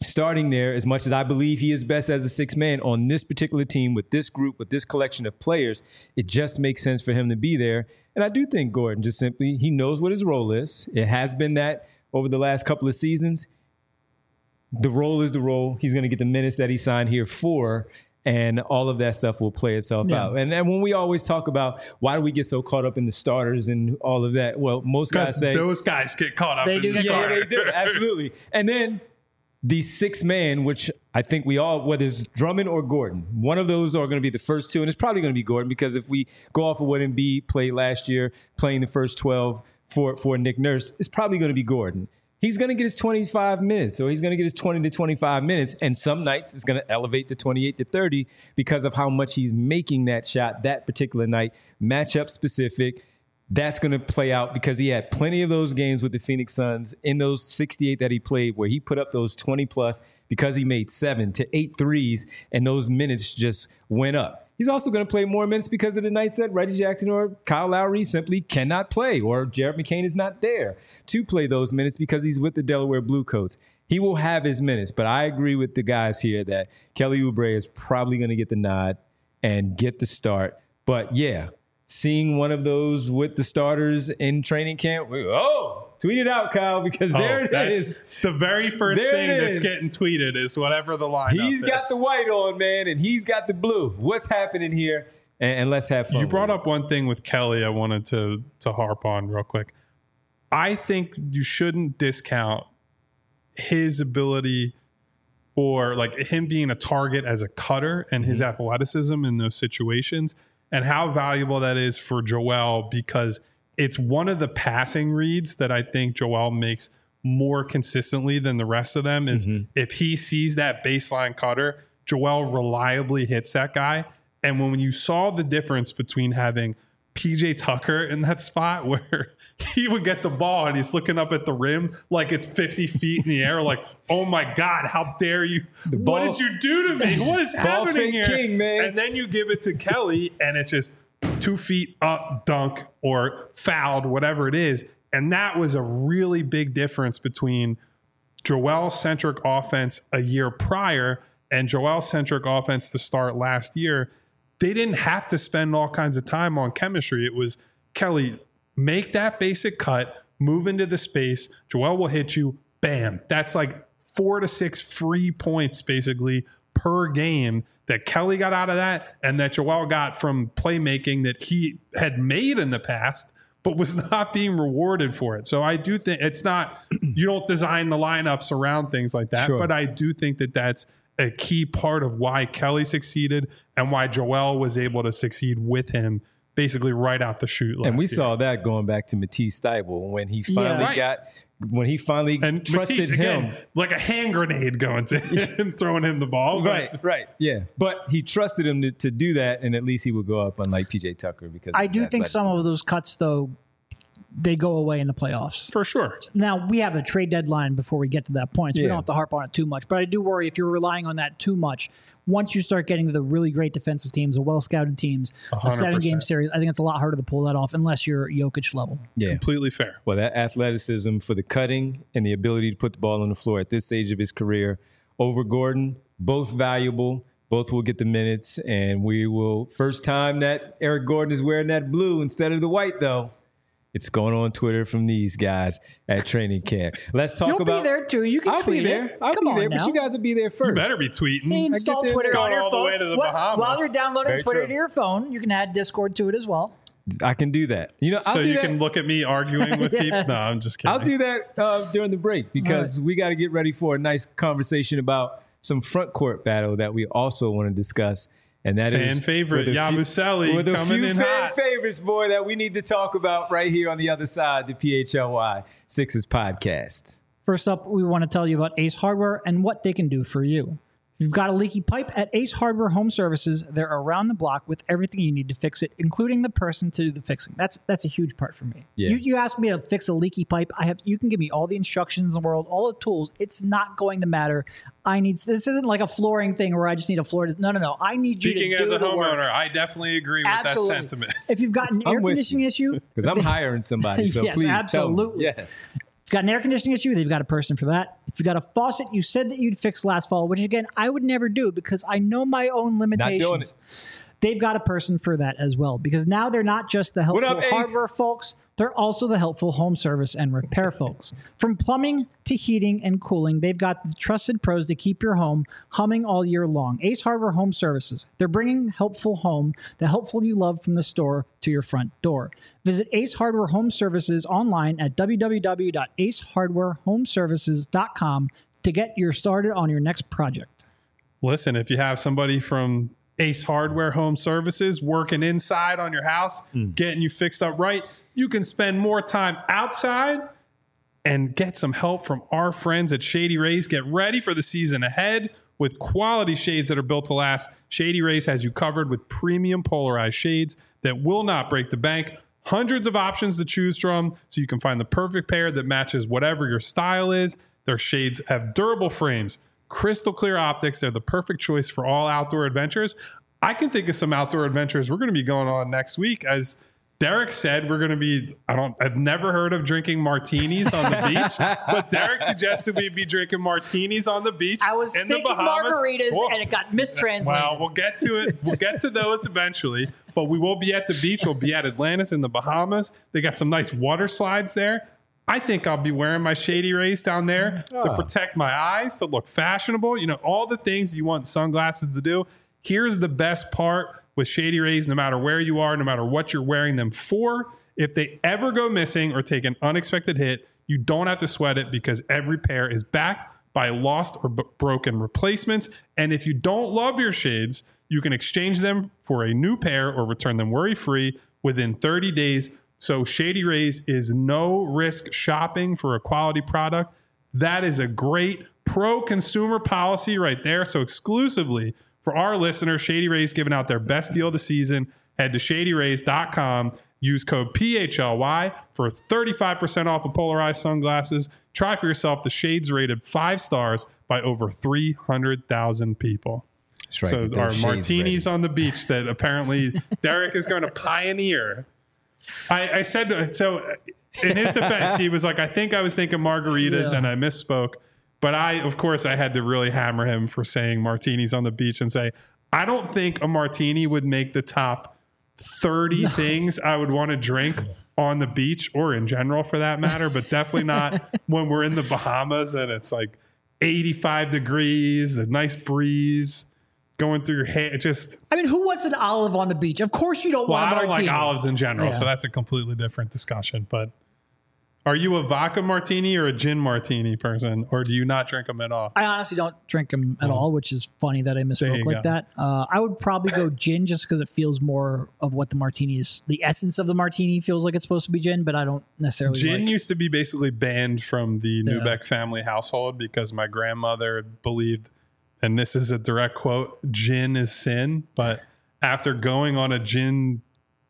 starting there, as much as I believe he is best as a sixth man on this particular team with this group, with this collection of players, it just makes sense for him to be there. And I do think Gordon just simply, he knows what his role is. It has been that over the last couple of seasons. The role is the role. He's going to get the minutes that he signed here for, and all of that stuff will play itself out. And when we always talk about why do we get so caught up in the starters and all of that, well, most guys say those guys get caught up in the starters. Yeah, they do. Absolutely. And then the sixth man, which I think we all, whether it's Drummond or Gordon, one of those are going to be the first two, and it's probably going to be Gordon, because if we go off of what Embiid played last year, playing the first 12 for Nick Nurse, it's probably going to be Gordon. He's going to get his 25 minutes, or he's going to get his 20 to 25 minutes. And some nights it's going to elevate to 28 to 30 because of how much he's making that shot that particular night, matchup specific. That's going to play out because he had plenty of those games with the Phoenix Suns in those 68 that he played where he put up those 20 plus because he made 7 to 8 threes and those minutes just went up. He's also going to play more minutes because of the nights that Reggie Jackson or Kyle Lowry simply cannot play, or Jared McCain is not there to play those minutes because he's with the Delaware Blue Coats. He will have his minutes, but I agree with the guys here that Kelly Oubre is probably going to get the nod and get the start. But yeah, seeing one of those with the starters in training camp, tweet it out, Kyle, because there it is. The very first thing that's getting tweeted is whatever the lineup is. He's got the white on, man, and he's got the blue. What's happening here? And let's have fun. You brought up one thing with Kelly I wanted to harp on real quick. I think you shouldn't discount his ability, or like him being a target as a cutter and his athleticism in those situations, and how valuable that is for Joel, because it's one of the passing reads that I think Joel makes more consistently than the rest of them is if he sees that baseline cutter, Joel reliably hits that guy. And when you saw the difference between having PJ Tucker in that spot where he would get the ball and he's looking up at the rim like it's 50 feet in the air, like, oh my God, how dare you? What did you do to me? What is happening here? King, man. And then you give it to Kelly and it's just 2 feet up, dunk, or fouled, whatever it is. And that was a really big difference between Joel-centric offense a year prior and Joel-centric offense to start last year. They didn't have to spend all kinds of time on chemistry. It was, Kelly, make that basic cut, move into the space. Joel will hit you. Bam. That's like 4 to 6 free points basically per game that Kelly got out of that, and that Joel got from playmaking that he had made in the past, but was not being rewarded for it. So I do think it's not, you don't design the lineups around things like that, but I do think that that's a key part of why Kelly succeeded and why Joel was able to succeed with him basically right out the chute last And we year. saw that going back to Matisse Thybulle when he finally and trusted Matisse, him. again, like a hand grenade going to him, throwing him the ball. Right. Yeah. But he trusted him to do that, and at least he would go up, unlike PJ Tucker. Because I do think some of those cuts, though, they go away in the playoffs. For sure. Now, we have a trade deadline before we get to that point, so we don't have to harp on it too much. But I do worry if you're relying on that too much. Once you start getting to the really great defensive teams, the well-scouted teams, 100%. a 7-game series, I think it's a lot harder to pull that off unless you're Jokic level. Yeah. Completely fair. Well, that athleticism for the cutting and the ability to put the ball on the floor at this stage of his career over Gordon, both valuable. Both will get the minutes, and we will, first time that Eric Gordon is wearing that blue instead of the white, though. It's going on Twitter from these guys at training camp. Let's talk about. You'll be there too. You can I'll tweet be there. it. I'll Come be on there, now. but you guys will be there first. You better be tweeting. Hey, install there Twitter on going your all the phone. way to the Bahamas. While you're downloading Very Twitter true. to your phone, you can add Discord to it as well. I can do that. So you can look at me arguing with people. No, I'm just kidding. I'll do that during the break because we got to get ready for a nice conversation about some front court battle that we also want to discuss. And that is fan favorite, with a few- Yabusele with a coming few in fan hot. favorites, boy, that we need to talk about right here on the other side, the PHLY Sixers podcast. First up, we want to tell you about Ace Hardware and what they can do for you. If you've got a leaky pipe at Ace Hardware Home Services, they're around the block with everything you need to fix it, including the person to do the fixing. That's a huge part for me. Yeah. You ask me to fix a leaky pipe, you can give me all the instructions in the world, all the tools. It's not going to matter. This isn't like a flooring thing where I just need a floor. No. I need Speaking you to as do a the homeowner, work. I definitely agree with Absolutely. that sentiment. If you've got an air with conditioning issue, Because I'm hiring somebody, so Yes, please absolutely. tell me. Yes. If you've got an air conditioning issue, they've got a person for that. If you've got a faucet you said that you'd fix last fall, which again, I would never do because I know my own limitations. Not doing it. They've got a person for that as well, because now they're not just the helpful hardware folks, they're also the helpful home service and repair folks. From plumbing to heating and cooling, they've got the trusted pros to keep your home humming all year long. Ace Hardware Home Services. They're bringing helpful home, the helpful you love, from the store to your front door. Visit Ace Hardware Home Services online at www.acehardwarehomeservices.com to get you started on your next project. Listen, if you have somebody from Ace Hardware Home Services working inside on your house, getting you fixed up right, you can spend more time outside and get some help from our friends at Shady Rays. Get ready for the season ahead with quality shades that are built to last. Shady Rays has you covered with premium polarized shades that will not break the bank. Hundreds of options to choose from, so you can find the perfect pair that matches whatever your style is. Their shades have durable frames, crystal clear optics. They're the perfect choice for all outdoor adventures. I can think of some outdoor adventures we're going to be going on next week. As Derek said, we're going to be, I've never heard of drinking martinis on the beach, but Derek suggested we be drinking martinis on the beach. I was in thinking the Bahamas. margaritas, and it got mistranslated. Well, we'll get to it. We'll get to those eventually, but we will be at the beach. We'll be at Atlantis in the Bahamas. They got some nice water slides there. I think I'll be wearing my Shady Rays down there to protect my eyes, to look fashionable. You know, all the things you want sunglasses to do. Here's the best part with Shady Rays, no matter where you are, no matter what you're wearing them for. If they ever go missing or take an unexpected hit, you don't have to sweat it because every pair is backed by lost or broken replacements. And if you don't love your shades, you can exchange them for a new pair or return them worry-free within 30 days. So Shady Rays is no risk shopping for a quality product. That is a great pro-consumer policy right there. So exclusively for our listeners, Shady Rays giving out their best deal of the season. Head to shadyrays.com. Use code PHLY for 35% off of polarized sunglasses. Try for yourself the shades rated 5 stars by over 300,000 people. That's right. So our martinis on the beach that apparently Derek is going to pioneer. I said, so in his defense, he was like, I think I was thinking margaritas and I misspoke. But of course, I had to really hammer him for saying martinis on the beach and say, I don't think a martini would make the top 30 things I would want to drink on the beach, or in general for that matter, but definitely not when we're in the Bahamas and it's like 85 degrees, a nice breeze going through your hair. I mean, who wants an olive on the beach? Of course you don't want a martini. I don't like olives in general, so that's a completely different discussion. But are you a vodka martini or a gin martini person, or do you not drink them at all? I honestly don't drink them at all, which is funny that I misspoke like that. I would probably go gin just because it feels more of what the martini is. The essence of the martini feels like it's supposed to be gin, but I don't necessarily Gin used to be basically banned from the Neubeck family household because my grandmother believed, and this is a direct quote, gin is sin. But after going to a gin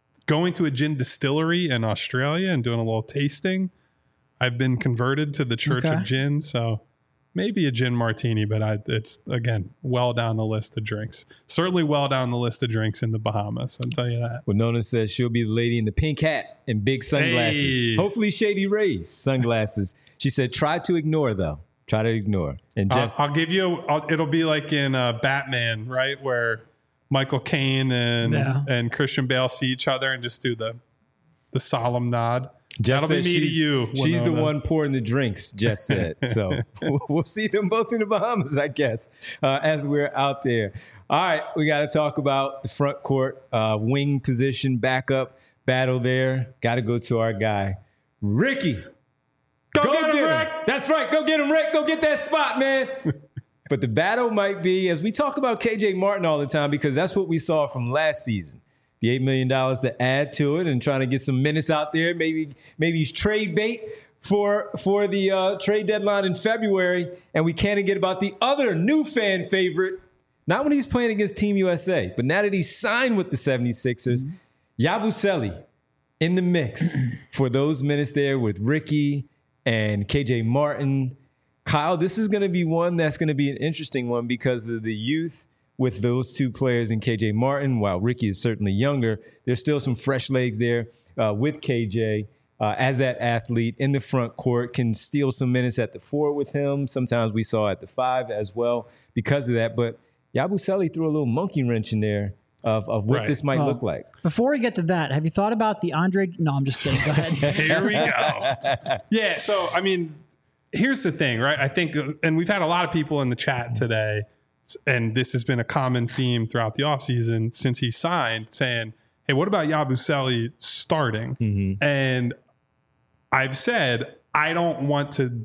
distillery in Australia and doing a little tasting, I've been converted to the Church of Gin, so maybe a gin martini, but it's, again, well down the list of drinks. Certainly well down the list of drinks in the Bahamas, I'll tell you that. Well, Nona says she'll be the lady in the pink hat and big sunglasses. Hey. Hopefully Shady Rays sunglasses. She said, try to ignore, though. Try to ignore. And I'll give you, it'll be like in Batman, right, where Michael Caine and Christian Bale see each other and just do the solemn nod. Jess That'll be me to you. She's the one pouring the drinks, Jess said. So we'll see them both in the Bahamas, I guess, as we're out there. All right, we got to talk about the front court wing position backup battle there. Got to go to our guy, Ricky. Go get him, Rick. That's right. Go get him, Rick. Go get that spot, man. But the battle might be, as we talk about KJ Martin all the time, because that's what we saw from last season. The $8 million to add to it and trying to get some minutes out there. Maybe he's trade bait for the trade deadline in February. And we can't forget about the other new fan favorite, not when he was playing against Team USA, but now that he's signed with the 76ers, Yabusele in the mix for those minutes there with Ricky and KJ Martin. Kyle, this is going to be one that's going to be an interesting one because of the youth with those two players and KJ Martin. While Ricky is certainly younger, there's still some fresh legs there with KJ. as that athlete in the front court, can steal some minutes at the 4 with him. Sometimes we saw at the 5 as well because of that. But Yabusele threw a little monkey wrench in there of what this might look like. Before we get to that, have you thought about the Andre? No, I'm just kidding. Go ahead. Here we go. Yeah. So, I mean, here's the thing, right? I think, and we've had a lot of people in the chat today, and this has been a common theme throughout the offseason since he signed, saying, hey, what about Yabusele starting? Mm-hmm. And I've said, I don't want to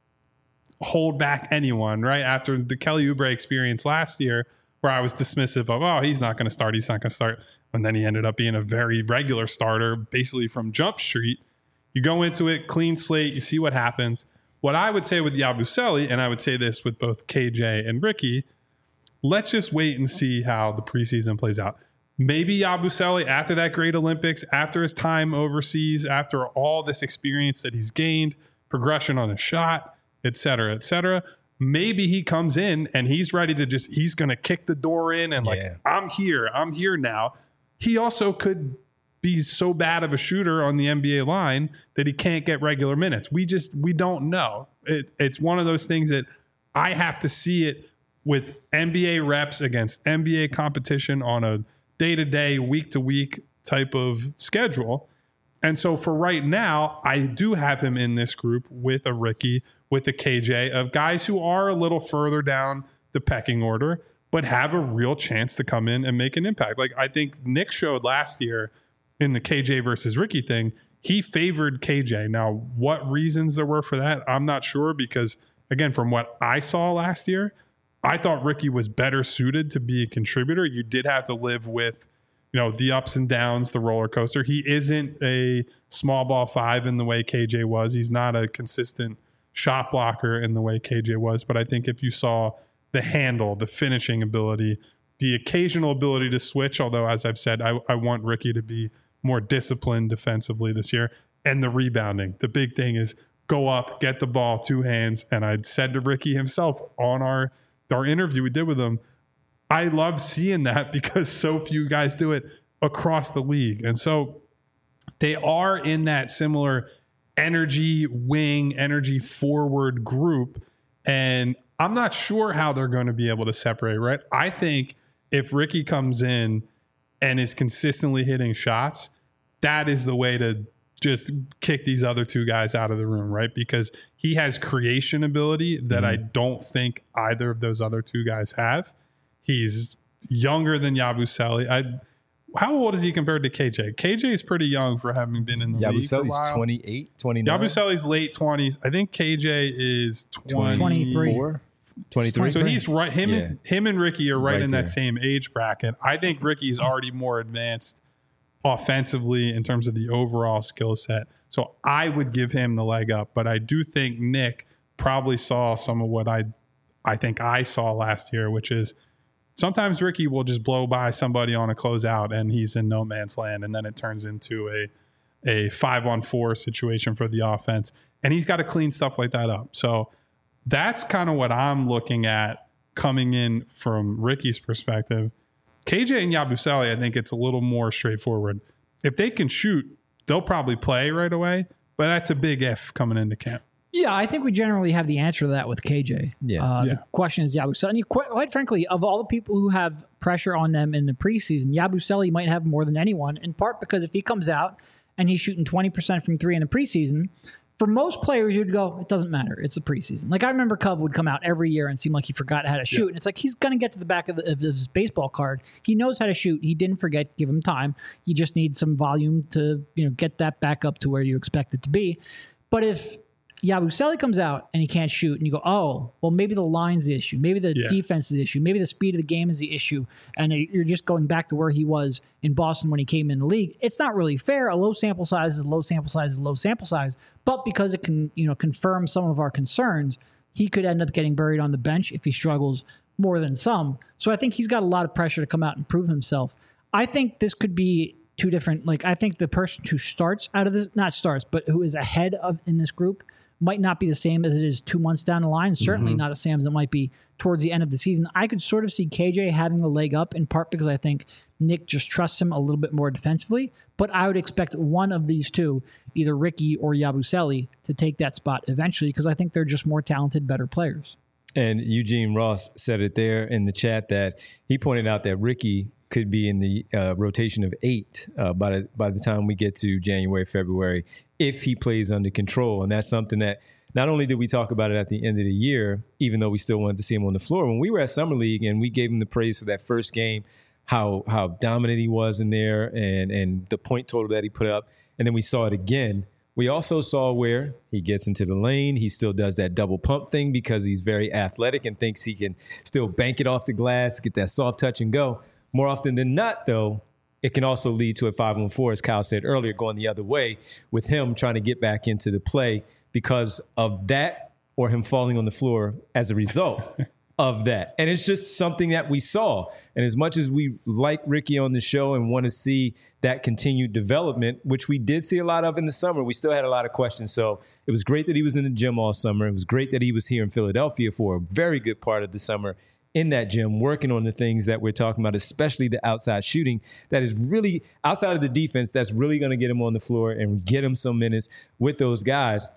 hold back anyone, right? After the Kelly Oubre experience last year, where I was dismissive of, oh, he's not going to start. And then he ended up being a very regular starter, basically from Jump Street. You go into it, clean slate, you see what happens. What I would say with Yabusele, and I would say this with both KJ and Ricky, let's just wait and see how the preseason plays out. Maybe Yabusele, after that great Olympics, after his time overseas, after all this experience that he's gained, progression on his shot, et cetera, maybe he comes in and he's ready to he's going to kick the door in and I'm here now. He also could be so bad of a shooter on the NBA line that he can't get regular minutes. We don't know. It's one of those things that I have to see it with NBA reps against NBA competition on a day-to-day, week-to-week type of schedule. And so for right now, I do have him in this group with a Ricky, with a KJ, of guys who are a little further down the pecking order, but have a real chance to come in and make an impact. Like I think Nick showed last year in the KJ versus Ricky thing, he favored KJ. Now, what reasons there were for that, I'm not sure, because again, from what I saw last year, I thought Ricky was better suited to be a contributor. You did have to live with, the ups and downs, the roller coaster. He isn't a small ball 5 in the way KJ was. He's not a consistent shot blocker in the way KJ was. But I think if you saw the handle, the finishing ability, the occasional ability to switch, although as I've said, I want Ricky to be more disciplined defensively this year, and the rebounding. The big thing is go up, get the ball, 2 hands. And I'd said to Ricky himself on our interview we did with him, I love seeing that because so few guys do it across the league. And so they are in that similar energy wing, energy forward group. And I'm not sure how they're going to be able to separate, right? I think if Ricky comes in and is consistently hitting shots, that is the way to just kick these other 2 guys out of the room, right? Because he has creation ability that I don't think either of those other 2 guys have. He's younger than Yabusele. How old is he compared to KJ? KJ is pretty young for having been in the league for a while. Yabusele's 28, 29. Yabusele's late 20s. I think KJ is 23. 23. So he's right. Him and Ricky are right in there. that same age bracket. I think Ricky's already more advanced offensively in terms of the overall skill set. So I would give him the leg up. But I do think Nick probably saw some of what I think I saw last year, which is sometimes Ricky will just blow by somebody on a closeout and he's in no man's land. And then it turns into a 5-on-4 situation for the offense. And he's got to clean stuff like that up. So that's kind of what I'm looking at coming in from Ricky's perspective. KJ and Yabusele, I think it's a little more straightforward. If they can shoot, they'll probably play right away. But that's a big if coming into camp. Yeah, I think we generally have the answer to that with KJ. Yes. The question is Yabusele. And quite frankly, of all the people who have pressure on them in the preseason, Yabusele might have more than anyone, in part because if he comes out and he's shooting 20% from 3 in the preseason, for most players, you'd go, it doesn't matter. It's the preseason. Like I remember Cub would come out every year and seem like he forgot how to shoot. And it's like, he's going to get to the back of his baseball card. He knows how to shoot. He didn't forget, give him time. He just needs some volume to, get that back up to where you expect it to be. But if Yabusele comes out and he can't shoot and you go, oh, well, maybe the line's the issue. Maybe the defense is the issue. Maybe the speed of the game is the issue. And you're just going back to where he was in Boston when he came in the league. It's not really fair. A low sample size is a low sample size is a low sample size. But because it can, confirm some of our concerns, he could end up getting buried on the bench if he struggles more than some. So I think he's got a lot of pressure to come out and prove himself. I think this could be 2 different, I think the person who starts out of this, not starts, but who is ahead of in this group might not be the same as it is 2 months down the line. Certainly not the same as it might be towards the end of the season. I could sort of see KJ having a leg up, in part because I think Nick just trusts him a little bit more defensively. But I would expect one of these two, either Ricky or Yabusele, to take that spot eventually, because I think they're just more talented, better players. And Eugene Ross said it there in the chat that he pointed out that Ricky could be in the rotation of 8 by the time we get to January, February, if he plays under control. And that's something that not only did we talk about it at the end of the year, even though we still wanted to see him on the floor, when we were at Summer League and we gave him the praise for that first game, how dominant he was in there and the point total that he put up. And then we saw it again. We also saw where he gets into the lane. He still does that double pump thing because he's very athletic and thinks he can still bank it off the glass, get that soft touch and go. More often than not, though, it can also lead to a 5-on-4, as Kyle said earlier, going the other way with him trying to get back into the play because of that or him falling on the floor as a result of that. And it's just something that we saw. And as much as we like Ricky on the show and want to see that continued development, which we did see a lot of in the summer, we still had a lot of questions. So it was great that he was in the gym all summer. It was great that he was here in Philadelphia for a very good part of the summer in that gym, working on the things that we're talking about, especially the outside shooting that is really outside of the defense. That's really going to get him on the floor and get him some minutes with those guys.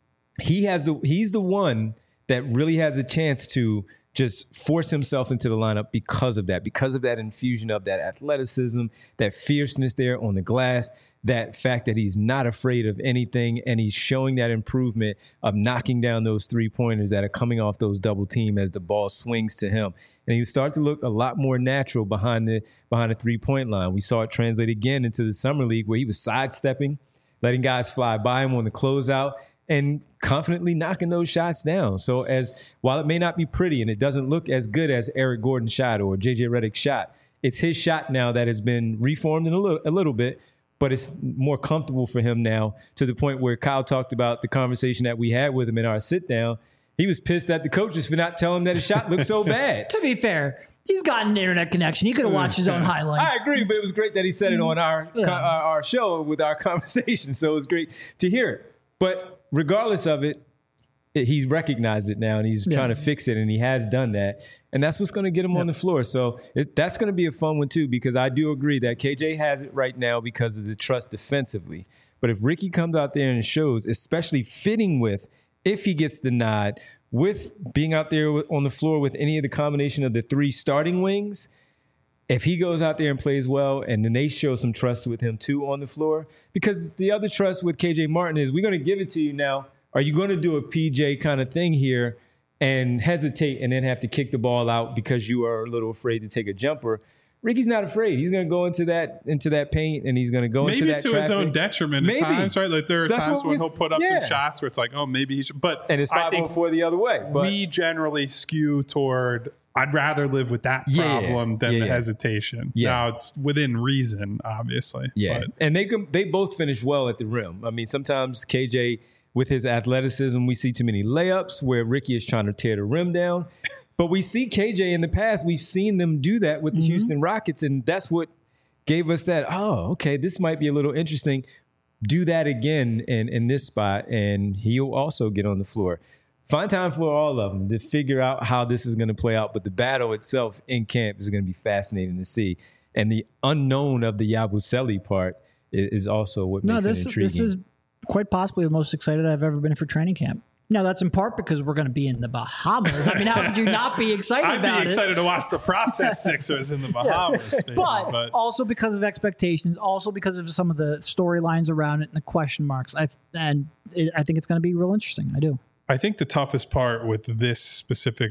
He's the one that really has a chance to just force himself into the lineup because of that infusion of that athleticism, that fierceness there on the glass, that fact that he's not afraid of anything, and he's showing that improvement of knocking down those 3-pointers that are coming off those double team as the ball swings to him. And he started to look a lot more natural behind the 3-point line. We saw it translate again into the Summer League where he was sidestepping, letting guys fly by him on the closeout, and confidently knocking those shots down. So while it may not be pretty and it doesn't look as good as Eric Gordon's shot or JJ Redick's shot, it's his shot now that has been reformed in a little bit, but it's more comfortable for him now, to the point where Kyle talked about the conversation that we had with him in our sit down. He was pissed at the coaches for not telling him that his shot looked so bad. To be fair, he's got an internet connection. He could have watched his own highlights. I agree, but it was great that he said it on our show with our conversation. So it was great to hear it. But regardless of it, he's recognized it now and he's trying to fix it, and he has done that. And that's what's going to get him on the floor. So that's going to be a fun one too, because I do agree that KJ has it right now because of the trust defensively. But if Ricky comes out there and shows, especially fitting with, if he gets the nod, with being out there on the floor with any of the combination of the 3 starting wings, if he goes out there and plays well, and then they show some trust with him too on the floor, because the other trust with KJ Martin is, we're going to give it to you now. Are you going to do a PJ kind of thing here and hesitate and then have to kick the ball out because you are a little afraid to take a jumper? Ricky's not afraid. He's going to go into that paint, and he's going to go into that maybe to his own detriment at times, right? Like there are times when he'll put up some shots where it's like, oh, maybe he should. But and it's 5-on-4 the other way. But we generally skew toward, I'd rather live with that problem than the hesitation. Yeah. Now it's within reason, obviously. Yeah, but. And they both finish well at the rim. I mean, sometimes KJ, with his athleticism, we see too many layups where Ricky is trying to tear the rim down. But we see KJ in the past, we've seen them do that with the Houston Rockets, and that's what gave us that, oh, okay, this might be a little interesting. Do that again in this spot, and he'll also get on the floor. Fine time for all of them to figure out how this is going to play out, but the battle itself in camp is going to be fascinating to see. And the unknown of the Yabusele part is also what makes it intriguing. This is quite possibly the most excited I've ever been for training camp. Now, that's in part because we're going to be in the Bahamas. I mean, how could you not be excited about it? I'd be excited to watch the process Sixers in the Bahamas. Yeah. But also because of expectations, also because of some of the storylines around it and the question marks. I think it's going to be real interesting. I do. I think the toughest part with this specific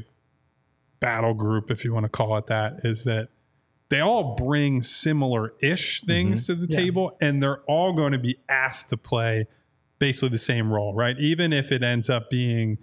battle group, if you want to call it that, is that they all bring similar-ish things to the table, and they're all going to be asked to play basically the same role, right? Even if it ends up being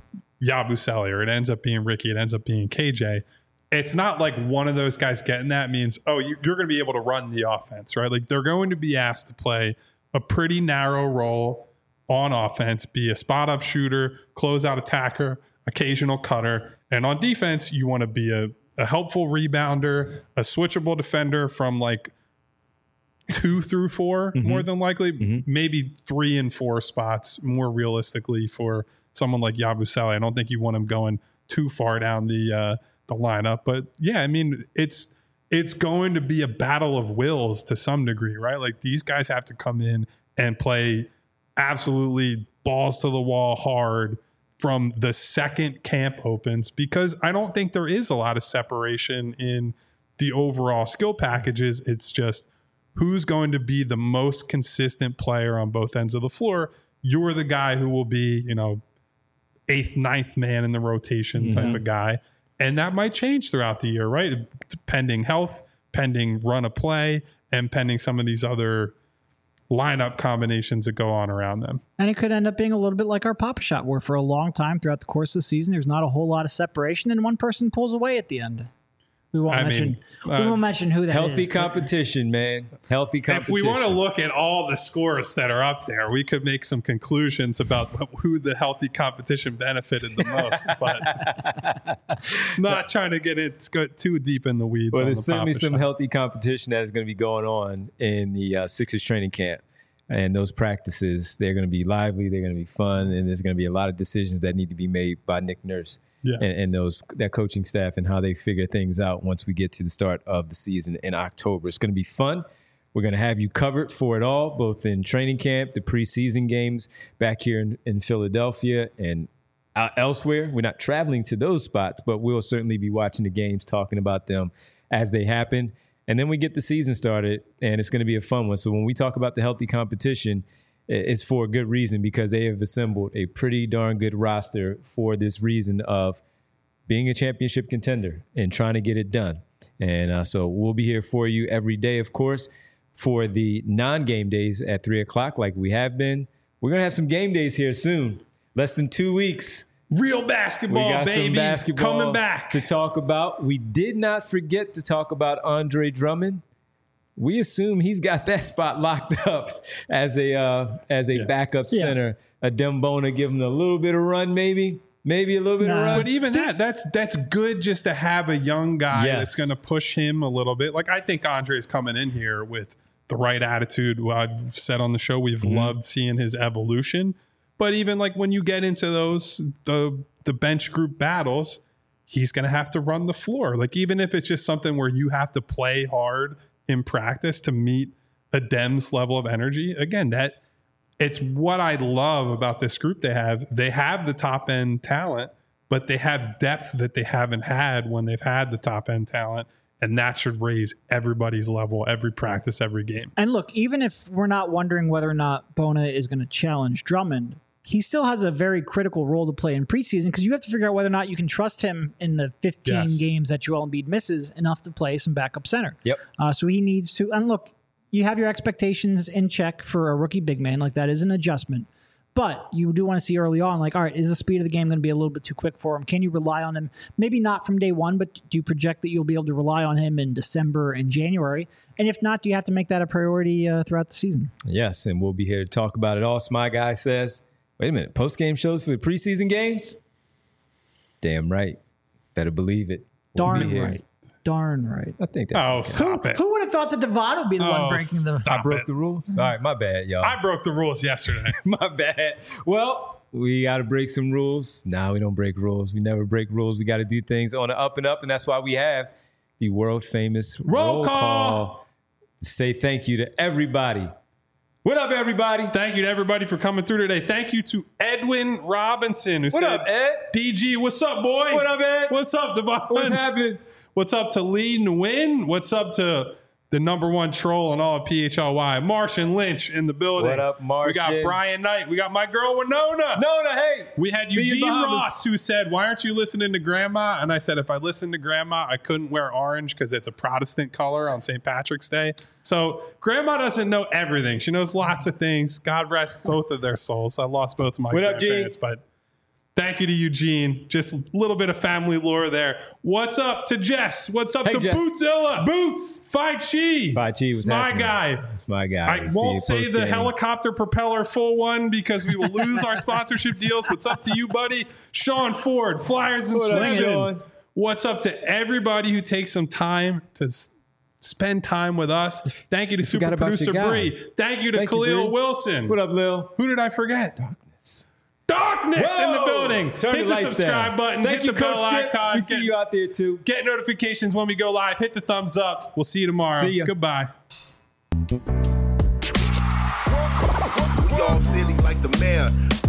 Yabusele or it ends up being Ricky, it ends up being KJ, it's not like one of those guys getting that means, oh, you're going to be able to run the offense, right? Like they're going to be asked to play a pretty narrow role on offense, be a spot-up shooter, closeout attacker, occasional cutter. And on defense, you want to be a helpful rebounder, a switchable defender from like 2 through 4 more than likely, maybe 3 and 4 spots more realistically for someone like Yabusele. I don't think you want him going too far down the lineup, but yeah, I mean, it's going to be a battle of wills to some degree, right? Like these guys have to come in and play absolutely balls to the wall hard from the second camp opens, because I don't think there is a lot of separation in the overall skill packages. It's just who's going to be the most consistent player on both ends of the floor. You're the guy who will be, 8th, 9th man in the rotation type of guy. And that might change throughout the year, right? Pending health, pending run of play, and pending some of these other lineup combinations that go on around them. And it could end up being a little bit like our Papa Shot, where for a long time throughout the course of the season, there's not a whole lot of separation, and one person pulls away at the end. We won't mention who that healthy is. Competition, man. Healthy competition. If we want to look at all the scores that are up there, we could make some conclusions about who the healthy competition benefited the most. But not trying to go too deep in the weeds. Well, there's certainly some healthy competition that is going to be going on in the Sixers training camp. And those practices, they're going to be lively, they're going to be fun, and there's going to be a lot of decisions that need to be made by Nick Nurse. And that coaching staff and how they figure things out once we get to the start of the season in October. It's going to be fun. We're going to have you covered for it all, both in training camp, the preseason games back here in Philadelphia and elsewhere. We're not traveling to those spots, but we'll certainly be watching the games, talking about them as they happen. And then we get the season started, and it's going to be a fun one. So when we talk about the healthy competition, it's for a good reason, because they have assembled a pretty darn good roster for this reason of being a championship contender and trying to get it done. And so we'll be here for you every day, of course, for the non-game days at 3 o'clock like we have been. We're going to have some game days here soon. Less than 2 weeks. Real basketball, we got baby. Some basketball coming back to talk about. We did not forget to talk about Andre Drummond. We assume he's got that spot locked up as a backup center. A Dembona give him a little bit of run, maybe a little bit of run. But even that's good just to have a young guy that's going to push him a little bit. Like I think Andre's coming in here with the right attitude. Well, I've said on the show we've loved seeing his evolution. But even like when you get into those the bench group battles, he's going to have to run the floor. Like even if it's just something where you have to play hard in practice to meet a Dem's level of energy. Again, it's what I love about this group. They have the top end talent, but they have depth that they haven't had when they've had the top end talent. And that should raise everybody's level every practice, every game. And look, even if we're not wondering whether or not Bona is going to challenge Drummond, he still has a very critical role to play in preseason, because you have to figure out whether or not you can trust him in the 15 games that Joel Embiid misses enough to play some backup center. Yep. So he needs to, and look, you have your expectations in check for a rookie big man. Like that is an adjustment, but you do want to see early on, like, all right, is the speed of the game going to be a little bit too quick for him? Can you rely on him? Maybe not from day one, but do you project that you'll be able to rely on him in December and January? And if not, do you have to make that a priority throughout the season? Yes. And we'll be here to talk about it all. Smy Guy says, wait a minute, post-game shows for the preseason games? Damn right. Better believe it. Darn right. Darn right. I think that's stop it. Who would have thought that Devon would be the one breaking the... I broke the rules? All right, my bad, y'all. I broke the rules yesterday. My bad. Well, we got to break some rules. Nah, we don't break rules. We never break rules. We got to do things on the up and up, and that's why we have the world-famous roll call to say thank you to everybody. What up, everybody? Thank you to everybody for coming through today. Thank you to Edwin Robinson, who said, up, Ed? DG, what's up, boy? What up, Ed? What's up, Devon? What's happening? What's up to Lee Nguyen? What's up to the number one troll in all of PHLY, Martian Lynch in the building? What up, Martian? We got Brian Knight. We got my girl Winona. Nona, hey. We had Eugene Ross, who said, why aren't you listening to Grandma? And I said, if I listened to Grandma, I couldn't wear orange because it's a Protestant color on St. Patrick's Day. So Grandma doesn't know everything. She knows lots of things. God rest both of their souls. I lost both of my grandparents, but thank you to Eugene. Just a little bit of family lore there. What's up to Jess? What's up to Jess. Bootzilla? Boots. Phi Chi. Phi Chi was my guy. It's my guy. I won't say the helicopter propeller full one because we will lose our sponsorship deals. What's up to you, buddy? Sean Ford, Flyers and Swinging. What's up to everybody who takes some time to spend time with us. Thank you to super forgot about producer your guy. Bree. Thank you to Thank you, Khalil Bree. Wilson. What up, Lil? Who did I forget? Darkness. Darkness in the Whoa! building. Turn Hit the the lights subscribe down. button. Thank hit you, the bell Coach Skip. icon. We see you out there too. Get notifications when we go live. Hit the thumbs up. We'll see you tomorrow. See ya. Goodbye. We all silly like the mayor.